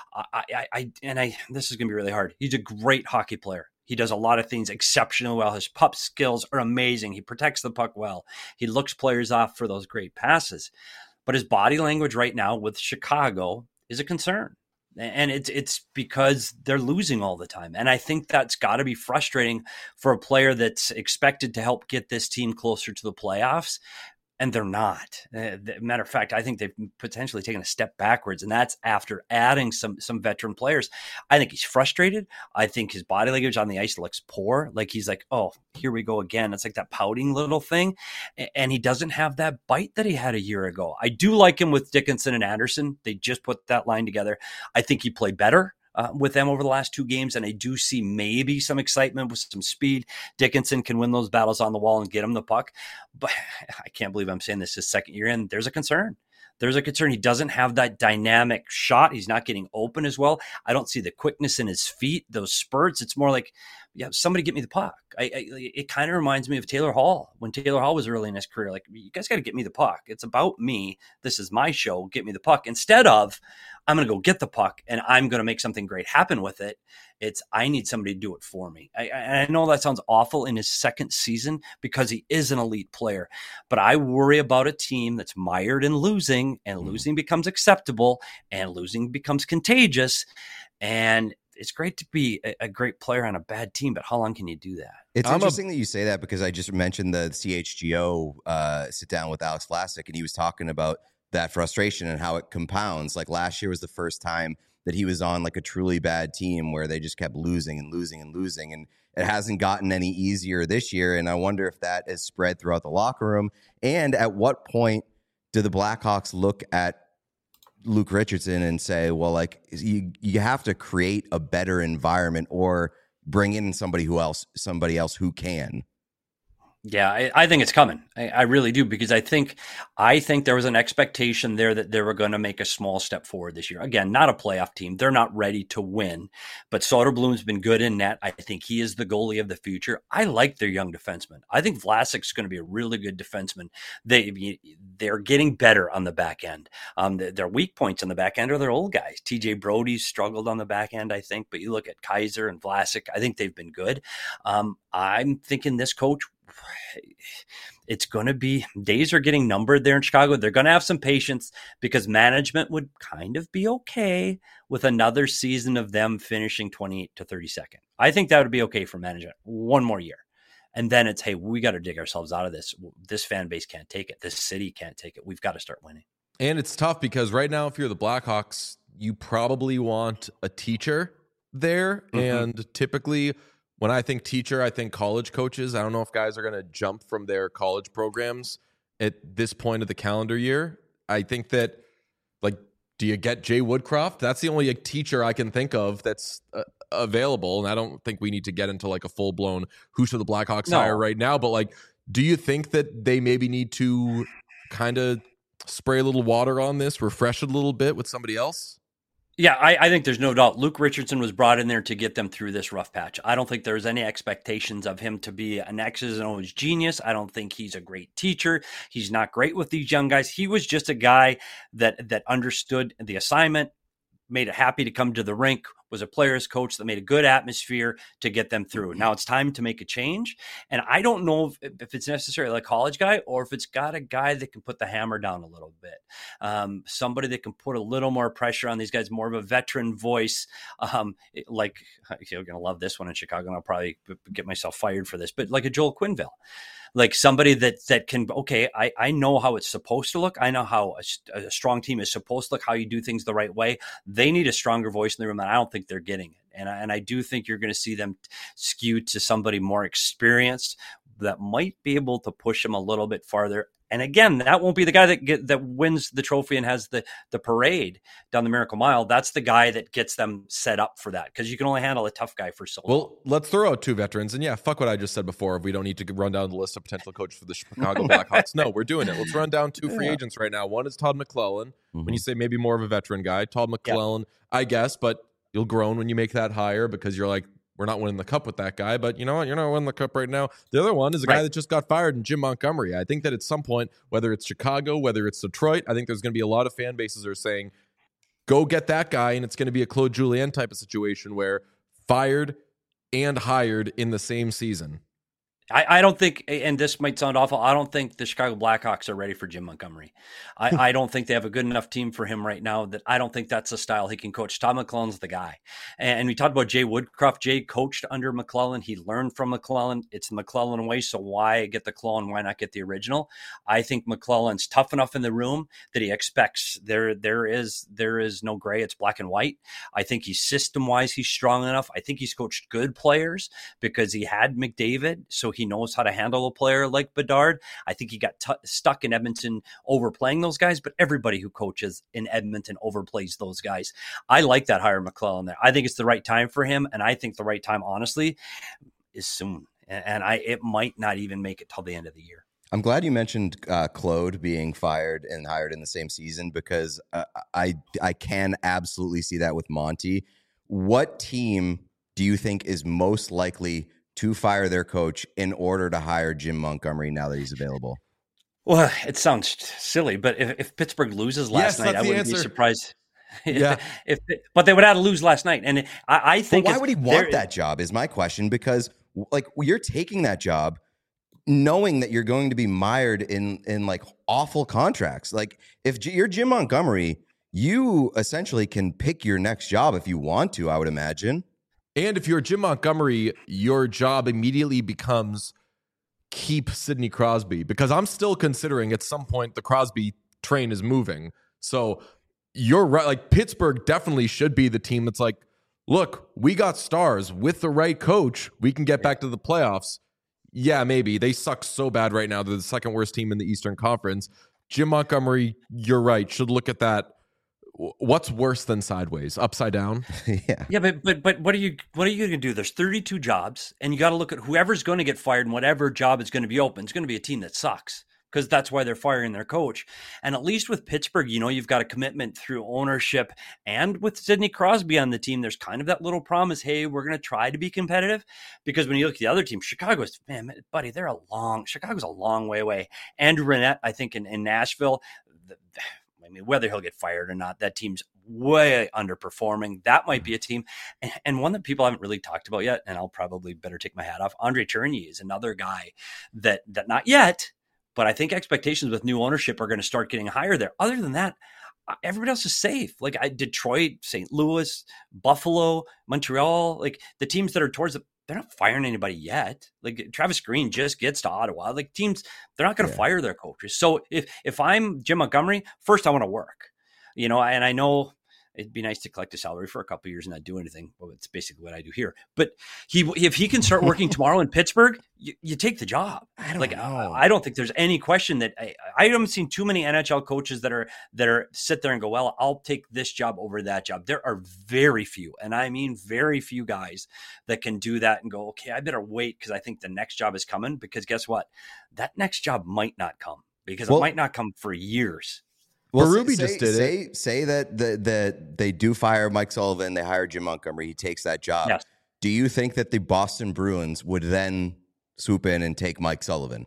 S6: This is going to be really hard. He's a great hockey player. He does a lot of things exceptionally well. His puck skills are amazing. He protects the puck well. He looks players off for those great passes. But his body language right now with Chicago is a concern. And it's because they're losing all the time. And I think that's got to be frustrating for a player that's expected to help get this team closer to the playoffs. And they're not. Matter of fact, I think they've potentially taken a step backwards, and that's after adding some veteran players. I think he's frustrated. I think his body language on the ice looks poor. Like, he's like, oh, here we go again. It's like that pouting little thing. And he doesn't have that bite that he had a year ago. I do like him with Dickinson and Anderson. They just put that line together. I think he played better with them over the last 2 games, and I do see maybe some excitement with some speed. Dickinson can win those battles on the wall and get him the puck, but I can't believe I'm saying this his second year in. There's a concern. There's a concern. He doesn't have that dynamic shot. He's not getting open as well. I don't see the quickness in his feet, those spurts. It's more like, yeah, somebody get me the puck. It kind of reminds me of Taylor Hall when Taylor Hall was early in his career. Like, you guys got to get me the puck. It's about me. This is my show. Get me the puck. Instead of, I'm going to go get the puck and I'm going to make something great happen with it. It's, I need somebody to do it for me. I know that sounds awful in his second season because he is an elite player, but I worry about a team that's mired in losing, and losing becomes acceptable and losing becomes contagious. And it's great to be a great player on a bad team, but how long can you do that?
S3: It's interesting that you say that, because I just mentioned the CHGO sit down with Alex Vlasic, and he was talking about that frustration and how it compounds. Like, last year was the first time that he was on like a truly bad team where they just kept losing and losing and losing, and it hasn't gotten any easier this year. And I wonder if that is spread throughout the locker room. And at what point do the Blackhawks look at Luke Richardson and say, well, like, you have to create a better environment or bring in somebody else who can?
S6: Yeah, I think it's coming. I really do, because I think there was an expectation there that they were going to make a small step forward this year. Again, not a playoff team. They're not ready to win, but Soderblom's been good in net. I think he is the goalie of the future. I like their young defenseman. I think Vlasic's going to be a really good defenseman. They're getting better on the back end. Their weak points on the back end are their old guys. TJ Brody's struggled on the back end, I think, but you look at Kaiser and Vlasic, I think they've been good. I'm thinking this coach, it's going to be, days are getting numbered there in Chicago. They're going to have some patience, because management would kind of be okay with another season of them finishing 28 to 32nd. I think that would be okay for management. One more year. And then it's, hey, we got to dig ourselves out of this. This fan base can't take it. This city can't take it. We've got to start winning.
S1: And it's tough, because right now, if you're the Blackhawks, you probably want a teacher there. Mm-hmm. And typically, when I think teacher, I think college coaches. I don't know if guys are going to jump from their college programs at this point of the calendar year. I think that, like, do you get Jay Woodcroft? That's the only teacher I can think of that's available. And I don't think we need to get into like a full-blown who should the Blackhawks hire right now. But, like, do you think that they maybe need to kind of spray a little water on this, refresh it a little bit with somebody else?
S6: Yeah, I think there's no doubt. Luke Richardson was brought in there to get them through this rough patch. I don't think there's any expectations of him to be an X's and O's genius. I don't think he's a great teacher. He's not great with these young guys. He was just a guy that understood the assignment, made it happy to come to the rink, was a player's coach that made a good atmosphere to get them through. Now it's time to make a change. And I don't know if it's necessarily a college guy, or if it's got a guy that can put the hammer down a little bit. Somebody that can put a little more pressure on these guys, more of a veteran voice. Like, you're going to love this one in Chicago, and I'll probably get myself fired for this, but like a Joel Quenneville. Like somebody that can, okay, I know how it's supposed to look. I know how a strong team is supposed to look, how you do things the right way. They need a stronger voice in the room, and I don't think they're getting it. And I do think you're going to see them skew to somebody more experienced that might be able to push them a little bit farther. And again, that won't be the guy that wins the trophy and has the parade down the Miracle Mile. That's the guy that gets them set up for that, because you can only handle a tough guy for so long.
S1: Well, let's throw out two veterans. And yeah, fuck what I just said before. We don't need to run down the list of potential coaches for the Chicago Blackhawks. No, we're doing it. Let's run down two free agents right now. One is Todd McClellan. Mm-hmm. When you say maybe more of a veteran guy, Todd McClellan, I guess, but you'll groan when you make that hire, because you're like, we're not winning the cup with that guy, but you know what? You're not winning the cup right now. The other one is a guy that just got fired, in Jim Montgomery. I think that at some point, whether it's Chicago, whether it's Detroit, I think there's going to be a lot of fan bases that are saying, go get that guy, and it's going to be a Claude Julien type of situation where fired and hired in the same season.
S6: I don't think, and this might sound awful, I don't think the Chicago Blackhawks are ready for Jim Montgomery. I don't think they have a good enough team for him right now. That I don't think that's the style he can coach. Todd McClellan's the guy. And we talked about Jay Woodcroft. Jay coached under McClellan. He learned from McClellan. It's the McClellan way, so why get the clone? Why not get the original? I think McClellan's tough enough in the room that he expects there is no gray. It's black and white. I think he's system-wise, he's strong enough. I think he's coached good players because he had McDavid, so he knows how to handle a player like Bedard. I think he got stuck in Edmonton overplaying those guys, but everybody who coaches in Edmonton overplays those guys. I like that hire McClellan there. I think it's the right time for him, and I think the right time, honestly, is soon. And it might not even make it till the end of the year.
S3: I'm glad you mentioned Claude being fired and hired in the same season, because I can absolutely see that with Monty. What team do you think is most likely to fire their coach in order to hire Jim Montgomery now that he's available?
S6: Well, it sounds silly, but if Pittsburgh loses last night, I wouldn't be surprised.
S1: Yeah,
S6: but they would have to lose last night, and I think.
S3: But why would he want that job? Is my question, because like you're taking that job knowing that you're going to be mired in like awful contracts. Like if you're Jim Montgomery, you essentially can pick your next job if you want to, I would imagine.
S1: And if you're Jim Montgomery, your job immediately becomes keep Sidney Crosby, because I'm still considering at some point the Crosby train is moving. So you're right. Like Pittsburgh definitely should be the team that's like, look, we got stars with the right coach. We can get back to the playoffs. Yeah, maybe. They suck so bad right now. They're the second worst team in the Eastern Conference. Jim Montgomery, you're right, should look at that what's worse than sideways? Upside down?
S6: Yeah, but what are you going to do? There's 32 jobs, and you got to look at whoever's going to get fired and whatever job is going to be open. It's going to be a team that sucks, because that's why they're firing their coach. And at least with Pittsburgh, you've got a commitment through ownership, and with Sidney Crosby on the team, there's kind of that little promise, hey, we're going to try to be competitive. Because when you look at the other team, Chicago's, man, buddy, Chicago's a long way away. Andrew Rennett, I think in Nashville, whether he'll get fired or not, that team's way underperforming. That might be a team. And one that people haven't really talked about yet, and I'll probably better take my hat off, Andre Tourigny is another guy that not yet, but I think expectations with new ownership are going to start getting higher there. Other than that, everybody else is safe. Like Detroit, St. Louis, Buffalo, Montreal, like the teams that are towards they're not firing anybody yet. Like Travis Green just gets to Ottawa. Like teams, they're not going to fire their coaches. So if I'm Jim Montgomery, first I want to work, and I know it'd be nice to collect a salary for a couple of years and not do anything. Well, it's basically what I do here. But if he can start working tomorrow in Pittsburgh, you take the job. I don't think there's any question that I haven't seen too many NHL coaches that are sit there and go, well, I'll take this job over that job. There are very few, and I mean very few guys that can do that and go, okay, I better wait because I think the next job is coming. Because guess what? That next job might not come because it might not come for years.
S3: Well,
S1: Berube just did it.
S3: Say that they do fire Mike Sullivan, they hire Jim Montgomery, he takes that job.
S6: Yes.
S3: Do you think that the Boston Bruins would then swoop in and take Mike Sullivan?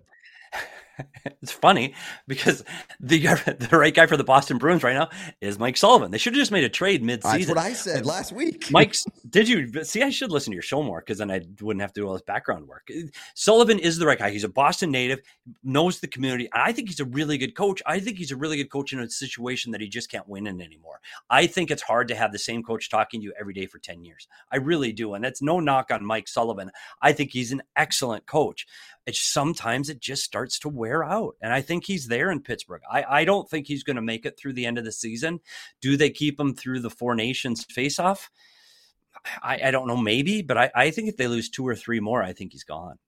S6: It's funny because the right guy for the Boston Bruins right now is Mike Sullivan. They should have just made a trade mid-season.
S3: That's what I said last week.
S6: Did you see? I should listen to your show more because then I wouldn't have to do all this background work. Sullivan is the right guy. He's a Boston native, knows the community. I think he's a really good coach. I think he's a really good coach in a situation that he just can't win in anymore. I think it's hard to have the same coach talking to you every day for 10 years. I really do. And that's no knock on Mike Sullivan. I think he's an excellent coach. Sometimes it just starts to wear out. And I think he's there in Pittsburgh. I don't think he's going to make it through the end of the season. Do they keep him through the Four Nations face-off? I don't know, maybe. But I think if they lose 2 or 3 more, I think he's gone.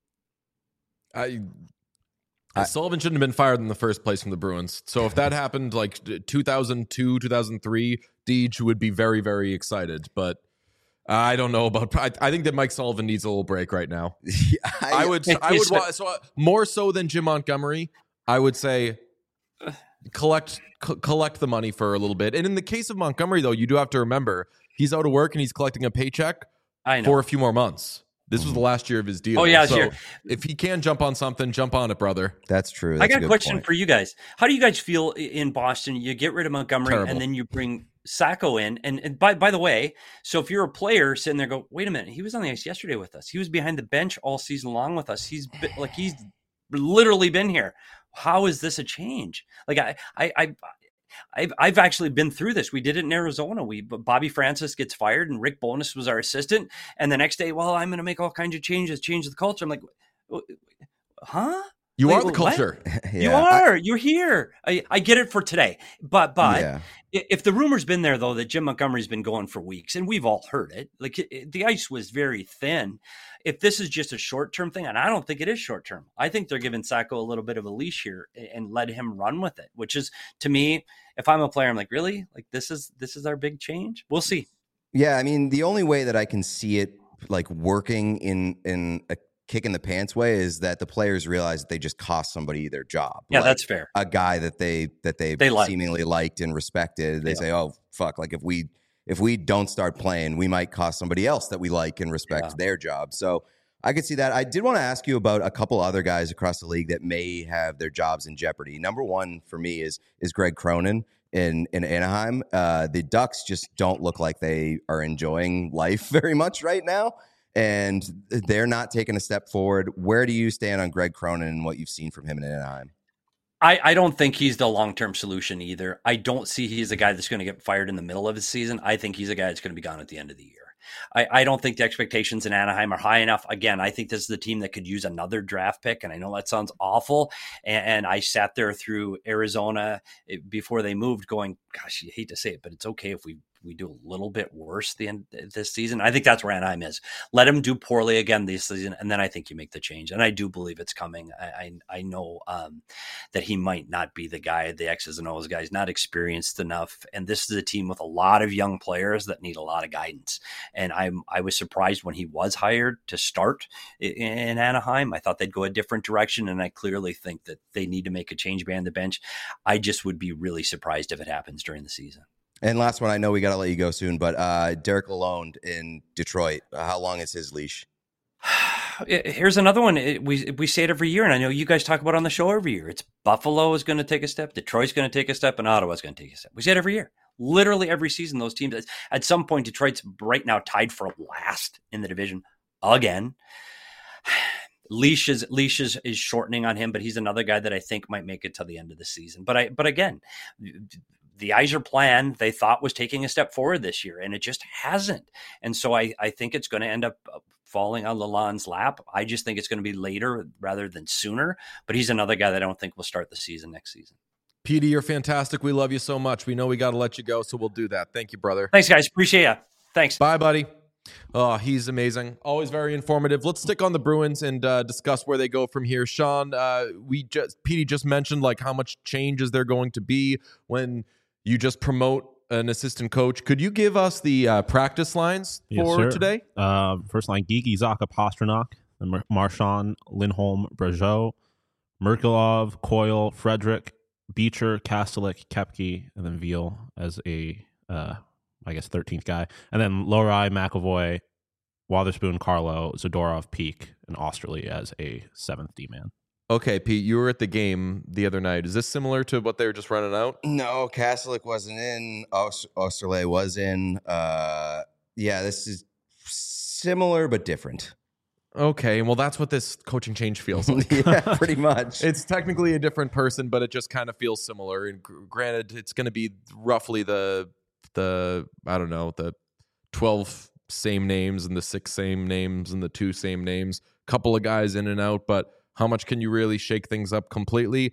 S1: Sullivan shouldn't have been fired in the first place from the Bruins. So if that happened like 2002, 2003, Deej would be very, very excited. But I don't know about. I think that Mike Sullivan needs a little break right now. I would more so than Jim Montgomery. I would say collect the money for a little bit. And in the case of Montgomery, though, you do have to remember he's out of work and he's collecting a paycheck for a few more months. This was the last year of his deal.
S6: Oh, yeah,
S1: so if he can jump on something, jump on it, brother.
S3: That's true.
S6: I got a question for you guys. How do you guys feel in Boston? You get rid of Montgomery and then you bring Sacco in. And by the way, so if you're a player sitting there, go, wait a minute, he was on the ice yesterday with us. He was behind the bench all season long with us. He's literally been here. How is this a change? Like I've actually been through this. We did it in Arizona. Bobby Francis gets fired and Rick Bowness was our assistant. And the next day, well, I'm going to make all kinds of changes, change the culture. I'm like, huh?
S1: You are the culture.
S6: You are. You're here. I get it for today. But if the rumor's been there, though, that Jim Montgomery's been going for weeks, and we've all heard it, like the ice was very thin. If this is just a short-term thing, and I don't think it is short-term, I think they're giving Sacco a little bit of a leash here and let him run with it, which is, to me, if I'm a player, I'm like, really? Like, this is our big change? We'll see.
S3: Yeah, I mean, the only way that I can see it like working in a kick in the pants way is that the players realize that they just cost somebody their job.
S6: Yeah, that's fair.
S3: A guy that they seemingly liked and respected. They say, oh, fuck, like if we don't start playing, we might cost somebody else that we like and respect their job. So I could see that. I did want to ask you about a couple other guys across the league that may have their jobs in jeopardy. Number one for me is Greg Cronin in Anaheim. The Ducks just don't look like they are enjoying life very much right now. And they're not taking a step forward. Where do you stand on Greg Cronin and what you've seen from him in Anaheim?
S6: I don't think he's the long-term solution either. I don't see he's a guy that's going to get fired in the middle of his season. I think he's a guy that's going to be gone at the end of the year. I don't think the expectations in Anaheim are high enough. Again, I think this is the team that could use another draft pick, and I know that sounds awful. And I sat there through Arizona before they moved going, gosh, you hate to say it, but it's okay if we we do a little bit worse the end this season. I think that's where Anaheim is. Let him do poorly again this season, and then I think you make the change. And I do believe it's coming. I know that he might not be the guy, the X's and O's guy. He's not experienced enough, and this is a team with a lot of young players that need a lot of guidance. And I was surprised when he was hired to start in Anaheim. I thought they'd go a different direction, and I clearly think that they need to make a change behind the bench. I just would be really surprised if it happens during the season.
S3: And last one, I know we got to let you go soon, but Derek Lalonde in Detroit, how long is his leash?
S6: Here's another one. We say it every year, and I know you guys talk about it on the show every year. It's Buffalo is going to take a step, Detroit's going to take a step, and Ottawa's going to take a step. We say it every year. Literally every season, those teams, at some point, Detroit's right now tied for last in the division again. Leash is shortening on him, but he's another guy that I think might make it to the end of the season. But again, the Yzer plan they thought was taking a step forward this year, and it just hasn't. And so I think it's going to end up falling on Lalonde's lap. I just think it's going to be later rather than sooner. But he's another guy that I don't think will start the season next season.
S1: Petey, you're fantastic. We love you so much. We know we got to let you go, so we'll do that. Thank you, brother.
S6: Thanks, guys. Appreciate you. Thanks.
S1: Bye, buddy. Oh, he's amazing. Always very informative. Let's stick on the Bruins and discuss where they go from here. Sean, Petey just mentioned like how much change is there going to be when you just promote an assistant coach. Could you give us the practice lines for today?
S2: First line, Gigi, Zaka, Pastrnak, Marchand, Lindholm, Brazeau, Merkulov, Coyle, Frederick, Beecher, Kastelik, Kepke, and then Veal as a 13th guy. And then Lohrei, McAvoy, Wotherspoon, Carlo, Zadorov, Peak, and Osterley as a 7th D-man.
S1: Okay, Pete, you were at the game the other night. Is this similar to what they were just running out?
S3: No, Kastelik wasn't in. Osterley was in. This is similar but different.
S1: Okay, well, that's what this coaching change feels like.
S3: Yeah, pretty much.
S1: It's technically a different person, but it just kind of feels similar. And granted, it's going to be roughly the 12 same names and the 6 same names and the 2 same names. Couple of guys in and out, but how much can you really shake things up completely?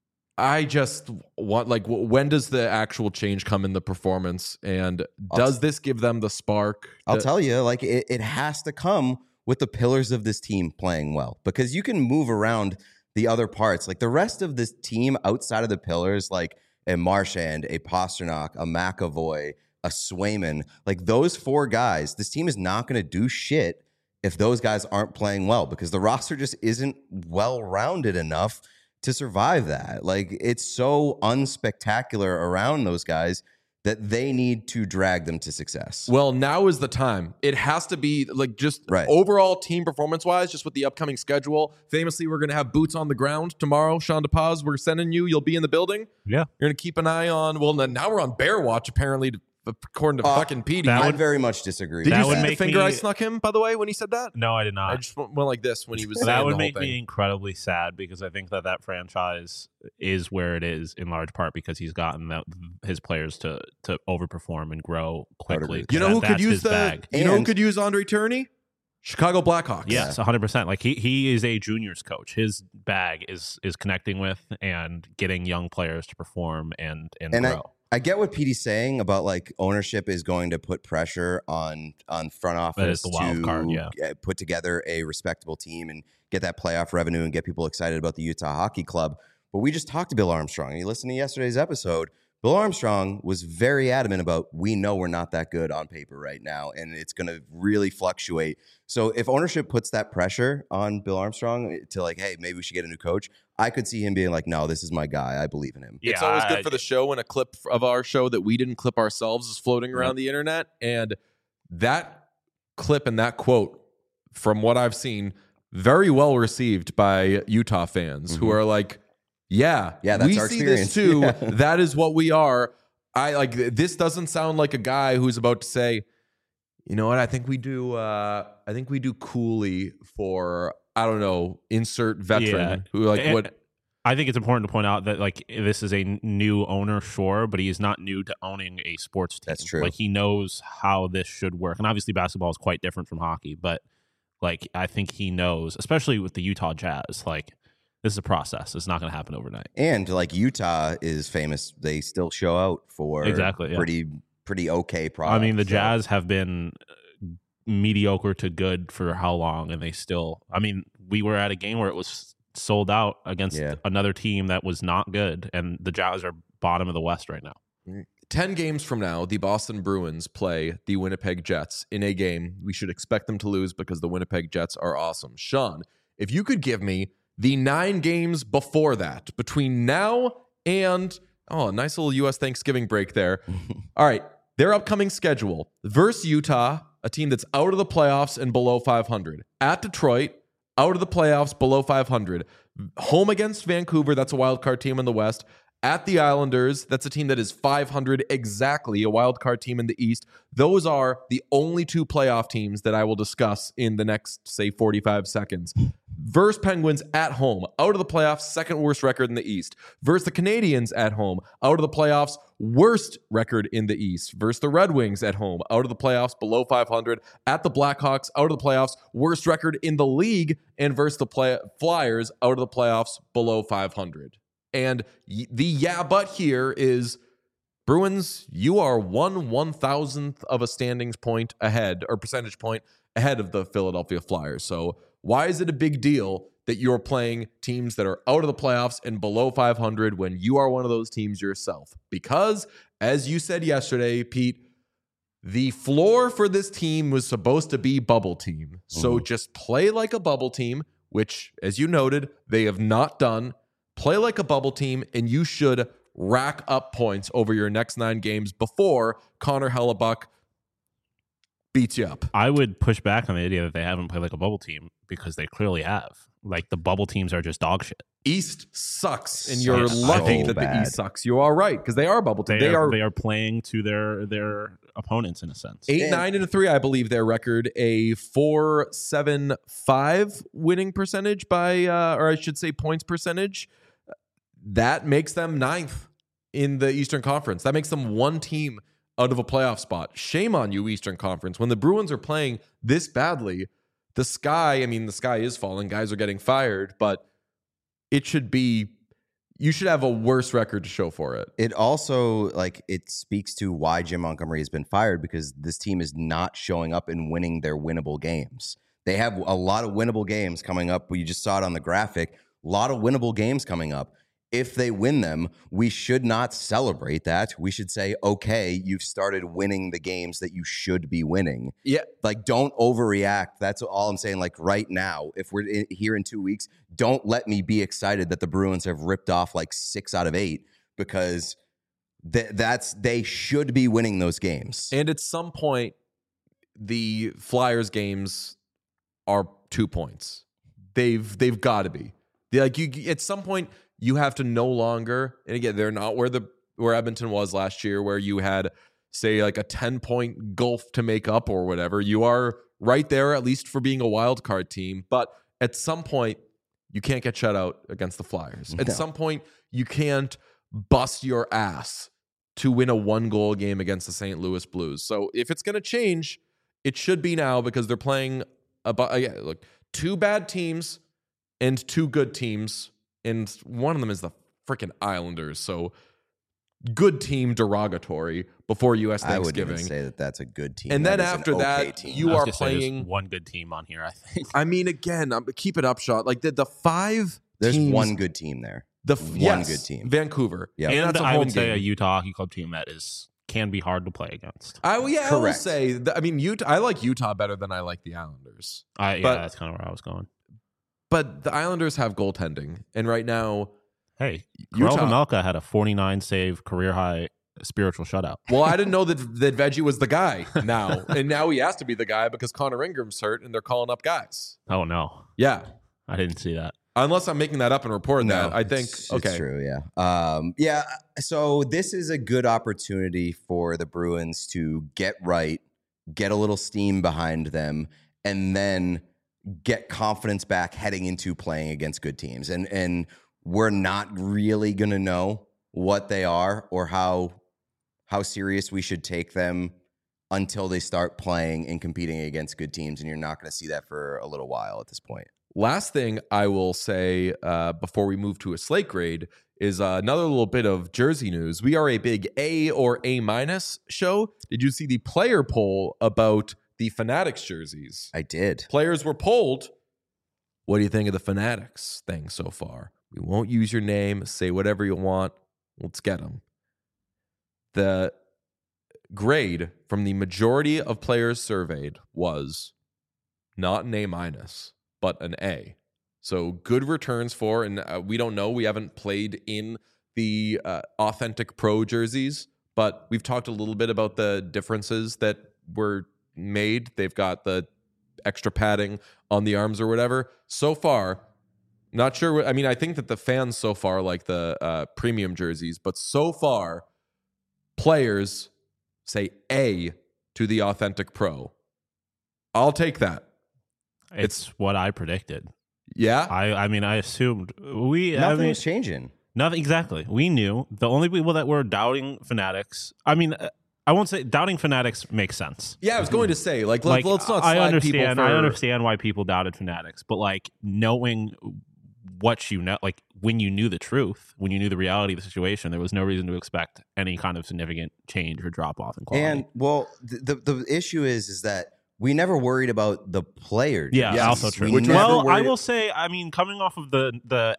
S1: I just want, when does the actual change come in the performance? And does this give them the spark?
S3: I'll tell you, it has to come with the pillars of this team playing well, because you can move around the other parts. Like the rest of this team outside of the pillars, like a Marchand, a Pastrnak, a McAvoy, a Swayman, like those 4 guys, this team is not going to do shit if those guys aren't playing well, because the roster just isn't well-rounded enough to survive that. Like it's so unspectacular around those guys that they need to drag them to success.
S1: Well, now is the time. It has to be overall team performance-wise, just with the upcoming schedule. Famously, we're going to have boots on the ground tomorrow. Sean DePaz, we're sending you. You'll be in the building.
S2: Yeah.
S1: You're going to keep an eye on, now we're on Bear Watch, apparently, according to fucking Petey.
S3: I very much disagree.
S1: Did you see the finger I snuck him, by the way, when he said that?
S2: No, I did not.
S1: I just went like this when he was saying
S2: that would
S1: the
S2: make
S1: whole thing.
S2: me incredibly sad, because I think that franchise is where it is in large part because he's gotten his players to overperform and grow quickly.
S1: You know who could use
S2: bag.
S1: You know who could use Andre Tourney? Chicago Blackhawks.
S2: Yes, 100%. Like he is a juniors coach. His bag is connecting with and getting young players to perform and grow.
S3: I get what Petey's saying about ownership is going to put pressure on front office to put together a respectable team and get that playoff revenue and get people excited about the Utah Hockey Club. But we just talked to Bill Armstrong. You listened to yesterday's episode. Bill Armstrong was very adamant about, we know we're not that good on paper right now, and it's going to really fluctuate. So if ownership puts that pressure on Bill Armstrong to hey, maybe we should get a new coach, I could see him being like, no, this is my guy. I believe in him.
S1: Yeah, it's always good for the show when a clip of our show that we didn't clip ourselves is floating around the internet. And that clip and that quote, from what I've seen, very well received by Utah fans who are like, yeah, that's we
S3: our
S1: see
S3: experience.
S1: This too.
S3: Yeah.
S1: That is what we are. This doesn't sound like a guy who's about to say, you know what? I think we do Cooley for, I don't know, insert veteran who what.
S2: I think it's important to point out that this is a new owner, sure, but he is not new to owning a sports team.
S3: That's true.
S2: He knows how this should work, and obviously basketball is quite different from hockey. But I think he knows, especially with the Utah Jazz. This is a process. It's not going to happen overnight.
S3: And Utah is famous. They still show out for pretty pretty okay product.
S2: I mean, the
S3: so-
S2: Jazz have been mediocre to good for how long, and they still. I mean, we were at a game where it was sold out against another team that was not good, and the Jazz are bottom of the West right now.
S1: 10 games from now, the Boston Bruins play the Winnipeg Jets in a game we should expect them to lose because the Winnipeg Jets are awesome. Sean, if you could give me the 9 games before that, between now and, a nice little U.S. Thanksgiving break there. All right, their upcoming schedule. Versus Utah, a team that's out of the playoffs and below 500. At Detroit, out of the playoffs, below 500. Home against Vancouver, that's a wild card team in the West. At the Islanders, that's a team that is 500 exactly, a wild card team in the East. Those are the only 2 playoff teams that I will discuss in the next, say, 45 seconds. Versus Penguins at home, out of the playoffs, second worst record in the East. Versus the Canadiens at home, out of the playoffs, worst record in the East. Versus the Red Wings at home, out of the playoffs, below 500. At the Blackhawks, out of the playoffs, worst record in the league. And versus the Flyers, out of the playoffs, below 500. And the but here is Bruins, you are 1/1000th of a standings point ahead, or percentage point ahead of the Philadelphia Flyers. So why is it a big deal that you're playing teams that are out of the playoffs and below 500 when you are one of those teams yourself? Because, as you said yesterday, Pete, the floor for this team was supposed to be bubble team. So just play like a bubble team, which, as you noted, they have not done. Play like a bubble team, and you should rack up points over your next 9 games before Connor Hellebuck beats you up.
S2: I would push back on the idea that they haven't played like a bubble team because they clearly have. Like, the bubble teams are just dog shit.
S1: East sucks, and you're
S3: So
S1: lucky that
S3: bad.
S1: the East sucks. You are right, because they are bubble team.
S2: They are playing to their opponents in a sense.
S1: 8-9-3, I believe their record, a 4.75 winning percentage by, or I should say points percentage. That makes them 9th in the Eastern Conference. That makes them 1 team out of a playoff spot. Shame on you, Eastern Conference. When the Bruins are playing this badly, the sky is falling. Guys are getting fired, but it should be, you should have a worse record to show for it.
S3: It also, it speaks to why Jim Montgomery has been fired, because this team is not showing up and winning their winnable games. They have a lot of winnable games coming up. You just saw it on the graphic. A lot of winnable games coming up. If they win them, we should not celebrate that. We should say, okay, you've started winning the games that you should be winning.
S1: Yeah.
S3: Don't overreact. That's all I'm saying. Right now, if we're here in 2 weeks, don't let me be excited that the Bruins have ripped off 6 out of 8, because they should be winning those games.
S1: And at some point, the Flyers games are 2 points. They've got to be. At some point, you have to no longer, and again, they're not where Edmonton was last year, where you had, say, a 10-point gulf to make up or whatever. You are right there, at least for being a wild card team. But at some point, you can't get shut out against the Flyers. At some point, you can't bust your ass to win a 1-goal game against the St. Louis Blues. So if it's going to change, it should be now, because they're playing 2 bad teams and 2 good teams. And one of them is the freaking Islanders. So good team derogatory before U.S. Thanksgiving.
S3: I wouldn't even say that that's a good team.
S1: And then
S3: that is
S1: after
S3: an okay
S1: that,
S3: team.
S1: you
S2: I was
S1: are
S2: gonna say there's
S1: playing
S2: 1 good team on here, I think.
S1: I mean, again, keep it up, Sean. The 5
S3: There's
S1: teams,
S3: 1 good team there.
S1: Yes,
S3: good team.
S1: Vancouver.
S3: Yeah.
S2: And
S1: that's a
S2: I
S1: home
S2: would say
S1: game.
S2: a Utah Hockey Club team that can be hard to play against.
S1: I will
S3: Correct.
S1: say, Utah. I like Utah better than I like the Islanders. But-
S2: That's kind of where I was going.
S1: But the Islanders have goaltending. And right now,
S2: Hey,
S1: Utah-
S2: Karel Vejmelka had a 49 save career high spiritual shutout.
S1: well, I didn't know that Veggie was the guy now. And now he has to be the guy because Connor Ingram's hurt and they're calling up guys.
S2: Oh no,
S1: Yeah.
S2: I didn't see that.
S1: Unless I'm making that up and reporting that. I think,
S3: it's
S1: okay.
S3: true. Yeah. So this is a good opportunity for the Bruins to get right, get a little steam behind them, and then get confidence back heading into playing against good teams. And we're not really going to know what they are or how serious we should take them until they start playing and competing against good teams. And you're not going to see that for a little while at this point.
S1: Last thing I will say before we move to a slate grade is another little bit of jersey news. We are a big A or A- show. Did you see the player poll about the Fanatics jerseys?
S3: I did.
S1: Players were polled. What do you think of the Fanatics thing so far? We won't use your name. Say whatever you want. Let's get them. The grade from the majority of players surveyed was not an A-, but an A. So good returns for, and we don't know. We haven't played in the authentic pro jerseys, but we've talked a little bit about the differences that were made. They've got the extra padding on the arms or whatever. So far, not sure. I mean, I think that the fans so far like the premium jerseys, but so far, players say A to the authentic pro. I'll take that.
S2: It's what I predicted.
S1: Yeah.
S2: I mean, I assumed
S3: Nothing was changing.
S2: Nothing exactly. We knew the only people that were doubting Fanatics. I mean, I won't say doubting Fanatics makes sense.
S1: Yeah, I was going to say let's not slag
S2: I understand.
S1: people for...
S2: I understand why people doubted Fanatics, but like knowing what you know, like when you knew the truth, when you knew the reality of the situation, there was no reason to expect any kind of significant change or drop off in quality.
S3: And well, the issue is that we never worried about the player.
S2: Yeah,
S1: Yes.
S2: also true.
S3: We never
S2: Well, I
S3: worried-
S2: will say, I mean, coming off of the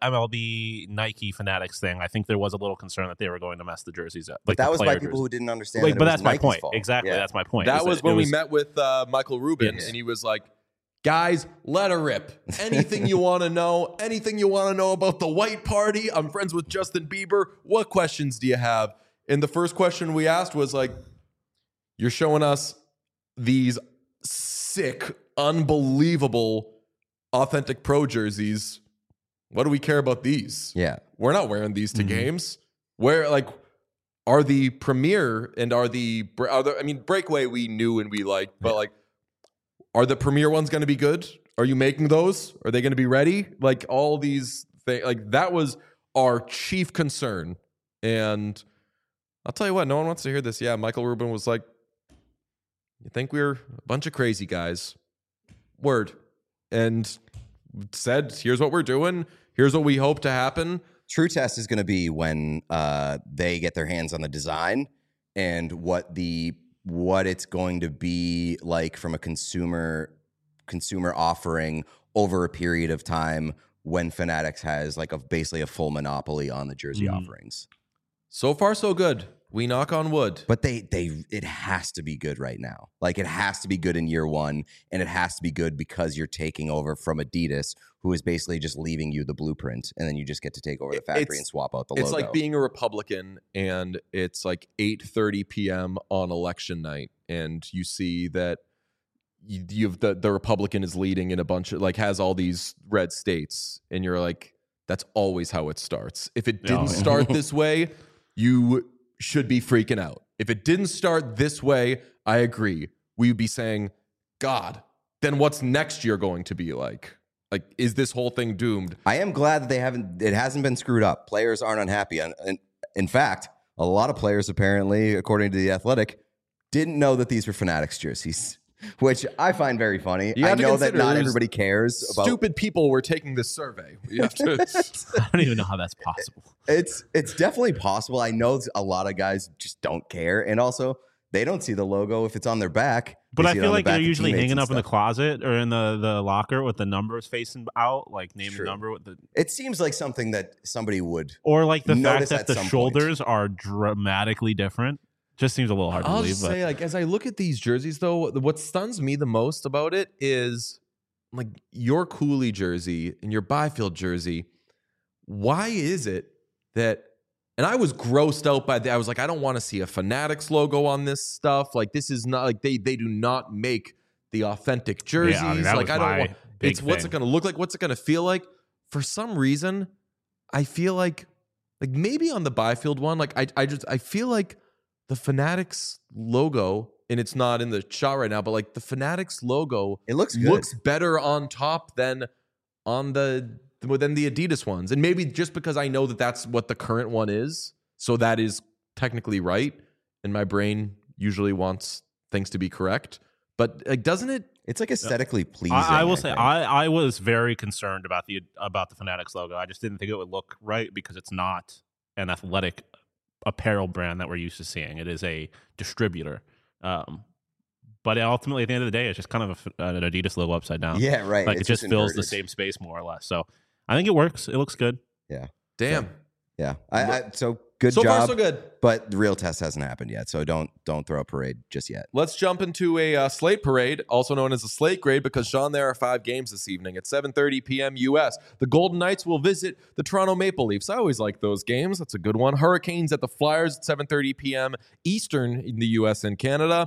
S2: MLB Nike Fanatics thing, I think there was a little concern that they were going to mess the jerseys up.
S3: But
S2: Like
S3: that was by
S2: player
S3: people
S2: jerseys.
S3: who didn't understand.
S2: Like,
S3: that
S2: but
S3: it was
S2: that's my
S3: Nike's
S2: point.
S3: fault.
S2: Exactly,
S3: Yeah.
S2: that's my point.
S1: That
S2: is
S1: was
S2: it
S1: when we
S2: was-
S1: met with Michael Rubin,
S2: Yes.
S1: and he was like, guys, let her rip. Anything you want to know, anything you want to know about the White Party. I'm friends with Justin Bieber. What questions do you have? And the first question we asked was like, you're showing us these sick, unbelievable, authentic pro jerseys. What do we care about these?
S3: Yeah.
S1: We're not wearing these to games. Where, like, are the Premier and are the I mean, Breakaway we knew and we liked, but like, are the Premier ones going to be good? Are you making those? Are they going to be ready? Like all these things, like that was our chief concern. And I'll tell you what, no one wants to hear this. Yeah, Michael Rubin was like, you think we're a bunch of crazy guys? Word. And said, here's what we're doing. Here's what we hope to happen.
S3: True test is going to be when they get their hands on the design and what it's going to be like from a consumer offering over a period of time when Fanatics has like basically a full monopoly on the jersey offerings.
S1: So far, so good. We knock on wood.
S3: But it has to be good right now. Like it has to be good in year one, and it has to be good because you're taking over from Adidas, who is basically just leaving you the blueprint, and then you just get to take over the factory and swap out the logo.
S1: It's like being a Republican, and it's like 8:30 p.m. on election night, and you see that you have the Republican is leading in a bunch of like has all these red states, and you're like, that's always how it starts. If it didn't start this way, you should be freaking out. If it didn't start this way, I agree. We would be saying, God, then what's next year going to be like? Like, is this whole thing doomed?
S3: I am glad that it hasn't been screwed up. Players aren't unhappy. And in fact, a lot of players apparently, according to The Athletic, didn't know that these were Fanatics jerseys, which I find very funny.
S1: You
S3: I
S1: have to
S3: know that
S1: consider
S3: not
S1: there's
S3: everybody cares about
S1: Stupid people were taking this survey. You have to,
S2: I don't even know how that's possible.
S3: It's definitely possible. I know a lot of guys just don't care, and also they don't see the logo if it's on their back.
S2: But
S3: They
S2: I
S3: see it
S2: feel
S3: on the
S2: like
S3: back
S2: they're
S3: of
S2: usually
S3: teammates
S2: hanging
S3: and
S2: up in the
S3: stuff.
S2: closet or in the locker with the numbers facing out, like name the
S3: True.
S2: number with the
S3: It seems like something that somebody would.
S2: or like the fact
S3: Notice
S2: that
S3: at
S2: the
S3: some
S2: shoulders are dramatically different. Just seems a little hard to
S1: I'll
S2: believe.
S1: just
S2: But
S1: say, like, as I look at these jerseys, though, what stuns me the most about it is like your Cooley jersey and your Byfield jersey. Why is it that? And I was grossed out by that. I was like, I don't want to see a Fanatics logo on this stuff. Like, this is not like they do not make the authentic jerseys.
S2: Yeah, I mean, that
S1: like,
S2: was
S1: I don't
S2: my
S1: want.
S2: big
S1: It's what's it
S2: thing.
S1: going to look like? What's it going to feel like? For some reason, I feel like maybe on the Byfield one, like I feel like the Fanatics logo, and it's not in the shot right now, but like the Fanatics logo
S3: It looks good.
S1: looks better on top than on the Adidas ones. And maybe just because I know that that's what the current one is, so that is technically right, and my brain usually wants things to be correct. But like, doesn't it?
S3: It's like aesthetically pleasing.
S2: I will say
S3: think.
S2: I was very concerned about the Fanatics logo. I just didn't think it would look right because it's not an athletic apparel brand that we're used to seeing. It is a distributor. But ultimately, at the end of the day, it's just kind of an Adidas logo upside down.
S3: Yeah, right.
S2: Like
S3: It's
S2: it just fills the
S3: inverted.
S2: same space more or less. So I think it works. It looks good.
S3: Yeah.
S1: Damn.
S3: Yeah. So good
S1: So
S3: job.
S1: far, so good.
S3: But the real test hasn't happened yet. So don't throw a parade just yet.
S1: Let's jump into a slate parade, also known as a slate grade, because, Sean, there are 5 games this evening at 7:30 p.m. U.S. The Golden Knights will visit the Toronto Maple Leafs. I always like those games. That's a good one. Hurricanes at the Flyers at 7:30 p.m. Eastern in the U.S. and Canada.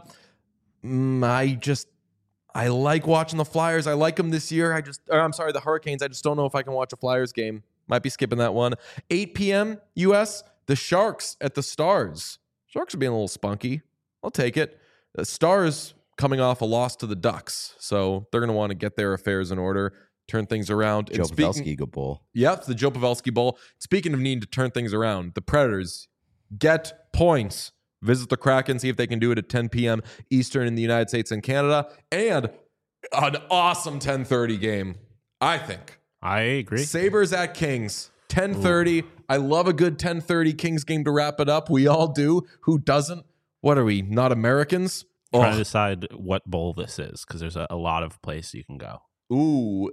S1: I like watching the Flyers. I like them this year. The Hurricanes. I just don't know if I can watch a Flyers game. Might be skipping that one. 8 p.m. U.S., the Sharks at the Stars. Sharks are being a little spunky. I'll take it. The Stars coming off a loss to the Ducks, so they're going to want to get their affairs in order, turn things around.
S3: Joe Pavelski, good bowl.
S1: Yep, the Joe Pavelski Bowl. Speaking of needing to turn things around, the Predators get points. Visit the Kraken, see if they can do it at 10 p.m. Eastern in the United States and Canada. And an awesome 10:30 game, I think.
S2: I agree.
S1: Sabres at Kings, 10:30. I love a good 10:30 Kings game to wrap it up. We all do. Who doesn't? What are we, not Americans?
S2: Trying to decide what bowl this is because there's a lot of places you can go.
S1: Ooh,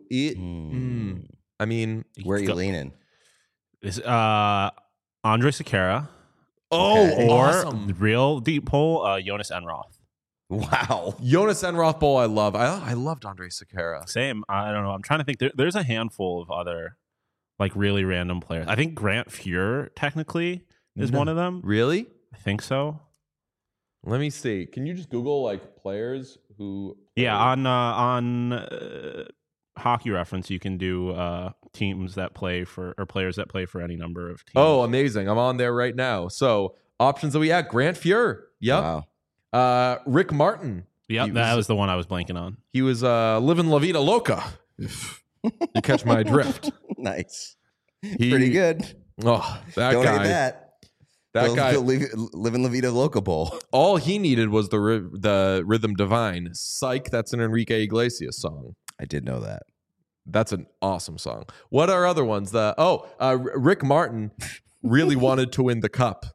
S1: I mean,
S3: Where are you leaning?
S2: Is Andre Sekera
S3: Okay.
S2: or
S1: awesome.
S2: real deep poll Jonas Enroth.
S3: Wow.
S1: Jonas Enroth Bowl, I love. I loved Andre Sekera.
S2: Same. I don't know. I'm trying to think. There's a handful of other like really random players. I think Grant Fuhr technically is one of them.
S1: Really?
S2: I think so.
S1: Let me see. Can you just Google like players who?
S2: Yeah, on Hockey Reference, you can do teams that play for or players that play for any number of teams.
S1: Oh, amazing! I'm on there right now. So options that we had: Grant Fuhr. Yep.
S3: Wow.
S1: Rick Martin.
S2: Yep, that was the one I was blanking on.
S1: He was living La Vida Loca. If you catch my drift.
S3: Nice. Pretty good.
S1: Oh, that
S3: Don't
S1: guy.
S3: hate that.
S1: That guy.
S3: Live in La Vida Loca Bowl.
S1: All he needed was the Rhythm Divine. Psych. That's an Enrique Iglesias song.
S3: I did know that.
S1: That's an awesome song. What are other ones? Rick Martin really wanted to win the cup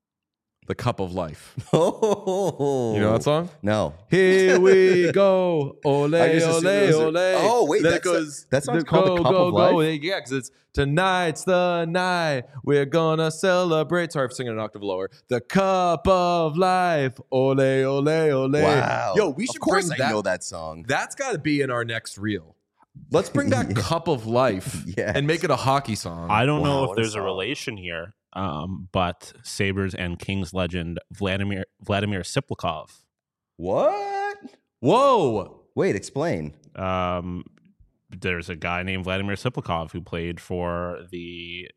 S1: of life.
S3: Oh,
S1: You know that song?
S3: No.
S1: Here we go, ole,
S3: I just
S1: ole,
S3: assumed it was
S1: ole.
S3: Oh, wait,
S1: Then
S3: that song's called The Cup of Life?
S1: Yeah, because it's tonight's the night we're gonna celebrate. Sorry for singing an octave lower. The cup of life, ole, ole, ole.
S3: Wow.
S1: Yo, we should
S3: Of course
S1: bring
S3: I
S1: that.
S3: know that song.
S1: That's got to be in our next reel. Let's bring back Cup of Life
S3: Yes.
S1: and make it a hockey song.
S2: I don't know
S3: Wow,
S2: if
S3: what a
S2: there's a
S3: song.
S2: relation here, but Sabres and Kings legend Vladimir Siplakov.
S3: What?
S1: Whoa.
S3: Wait, explain.
S2: There's a guy named Vladimir Siplakov who played for the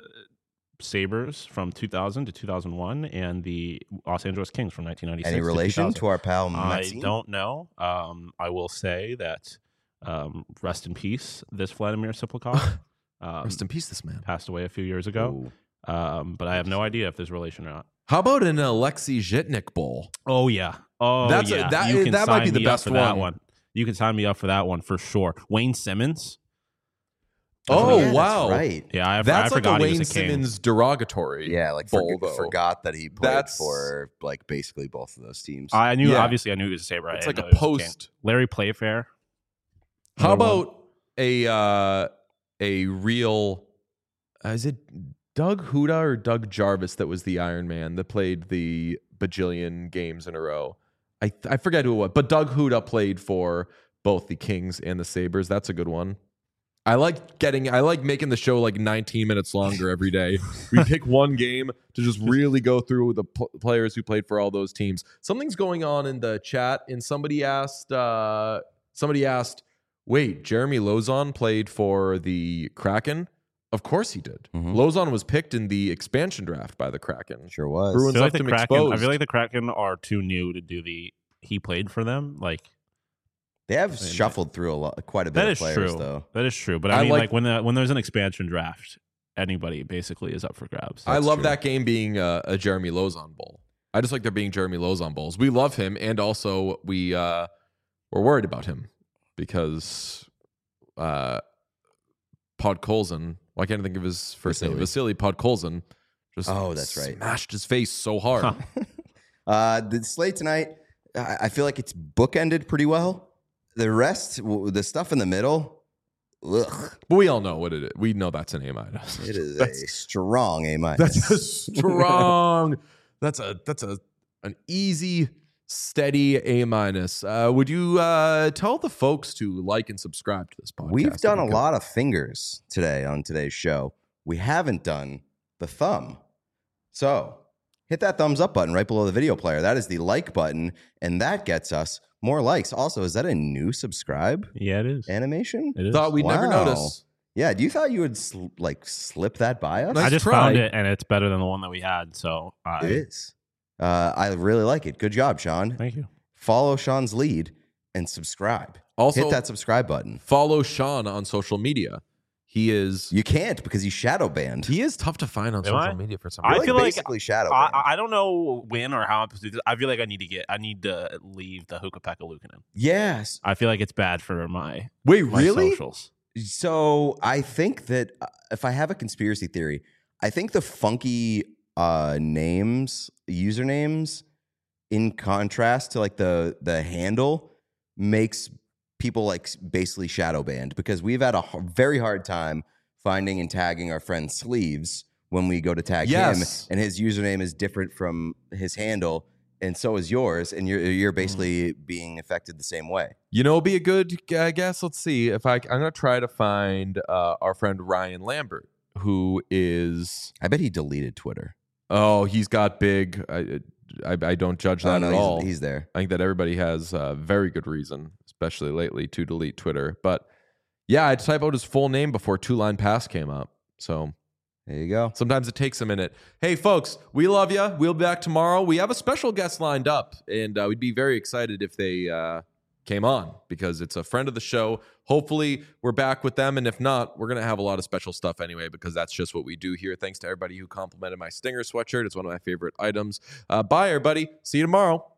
S2: Sabres from 2000 to 2001 and the Los Angeles Kings from 1996
S3: Any
S2: to
S3: relation
S2: 2000.
S3: to our pal
S2: I
S3: Maxime?
S2: don't know. I will say that rest in peace, this Vladimir Siplakov.
S1: Rest in peace, this man.
S2: Passed away a few years ago.
S3: Ooh.
S2: But I have no idea if there's relation or not.
S1: How about an Alexei Zhitnik bowl?
S2: Oh yeah. Oh
S1: That's
S2: yeah.
S1: that
S2: You can
S1: might be
S2: sign
S1: the
S2: me up
S1: best
S2: for that
S1: one.
S2: You can sign me up for that one for sure. Wayne Simmons.
S1: Oh,
S3: yeah,
S1: wow.
S3: That's right.
S2: Yeah, I
S1: That's like a
S2: forgot he
S1: Wayne
S2: was a King.
S1: Simmons derogatory.
S3: Yeah, like
S1: bowl, though.
S3: forgot that he played
S1: That's-
S3: for like basically both of those teams.
S2: I knew.
S1: Yeah.
S2: Obviously, I knew he was a Sabre.
S1: It's
S2: I
S1: like
S2: didn't
S1: a
S2: know he was King.
S1: post.
S2: Larry Playfair.
S1: How
S2: Another one.
S1: about a real? Is it Doug Huda or Doug Jarvis that was the Iron Man that played the bajillion games in a row? I forget who it was, but Doug Huda played for both the Kings and the Sabres. That's a good one. I like making the show like 19 minutes longer every day. We pick one game to just really go through the players who played for all those teams. Something's going on in the chat, and somebody asked, wait, Jeremy Lozon played for the Kraken? Of course he did.
S3: Mhm.
S1: Lozon was picked in the expansion draft by the Kraken.
S3: Sure was.
S1: Bruins
S2: I feel, like
S1: left
S2: the
S1: him
S2: Kraken,
S1: exposed.
S2: I feel like the Kraken are too new to do the. He played for them. Like
S3: They have shuffled through quite a bit
S2: that
S3: of
S2: is
S3: players,
S2: true.
S3: though.
S2: That is true. But
S1: I
S2: I mean,
S1: like-
S2: like when there's an expansion draft, anybody basically is up for grabs.
S1: I
S3: That's
S1: love
S3: true.
S1: that game being a Jeremy Lozon bowl. I just like there being Jeremy Lozon bowls. We love him, and also we're worried about him because Podkolzin. Why can't I think of his first name? Vasily Podkolzin Just
S3: that's right.
S1: Smashed his face so hard.
S3: The slate tonight, I feel like it's bookended pretty well. The rest, the stuff in the middle, ugh.
S1: But we all know what it is. We know that's an A minus.
S3: It is a strong A minus.
S1: That's a strong. that's an easy, steady A minus. Would you tell the folks to like and subscribe to this podcast?
S3: We've done a lot of fingers today on today's show. We haven't done the thumb. So hit that thumbs up button right below the video player. That is the like button, and that gets us more likes. Also, is that a new subscribe
S2: Yeah, it is.
S3: animation?
S2: It is.
S1: Thought we'd never
S3: Wow.
S1: notice.
S3: Yeah, do you thought you would slip that by us?
S1: Nice
S2: I just
S1: try.
S2: found it, and it's better than the one that we had. So
S3: It is. I really like it. Good job, Sean.
S2: Thank you.
S3: Follow Sean's lead and subscribe.
S1: Also,
S3: Hit that subscribe button.
S1: follow Sean on social media. He is
S3: You can't because he's shadow banned.
S1: he is tough to find on
S2: Am
S1: social
S2: I?
S1: media for some
S2: I
S1: reason.
S3: You're
S2: feel like
S3: basically shadow banned.
S2: I don't know when or how I'm supposed to do this. I feel like I need to leave the Hukapeka Lukanen.
S3: Yes.
S2: I feel like it's bad for my
S1: Wait,
S2: socials.
S3: So I think that if I have a conspiracy theory, I think the funky usernames, in contrast to like the handle, makes people like basically shadow banned, because we've had a very hard time finding and tagging our friend Sleeves when we go to tag him, and his username is different from his handle, and so is yours, and you're basically being affected the same way.
S1: You know, it'd be a good guess. Let's see if I'm gonna try to find our friend Ryan Lambert, who is
S3: I bet he deleted Twitter.
S1: he's got big. I don't judge that at all.
S3: He's there.
S1: I think that everybody has very good reason, especially lately, to delete Twitter. But yeah, I typed out his full name before Two Line Pass came up. So
S3: There you go.
S1: sometimes it takes a minute. Hey, folks, we love you. We'll be back tomorrow. We have a special guest lined up, and we'd be very excited if they came on, because it's a friend of the show. Hopefully, we're back with them, and if not, we're going to have a lot of special stuff anyway, because that's just what we do here. Thanks to everybody who complimented my Stinger sweatshirt. It's one of my favorite items. Bye, everybody. See you tomorrow.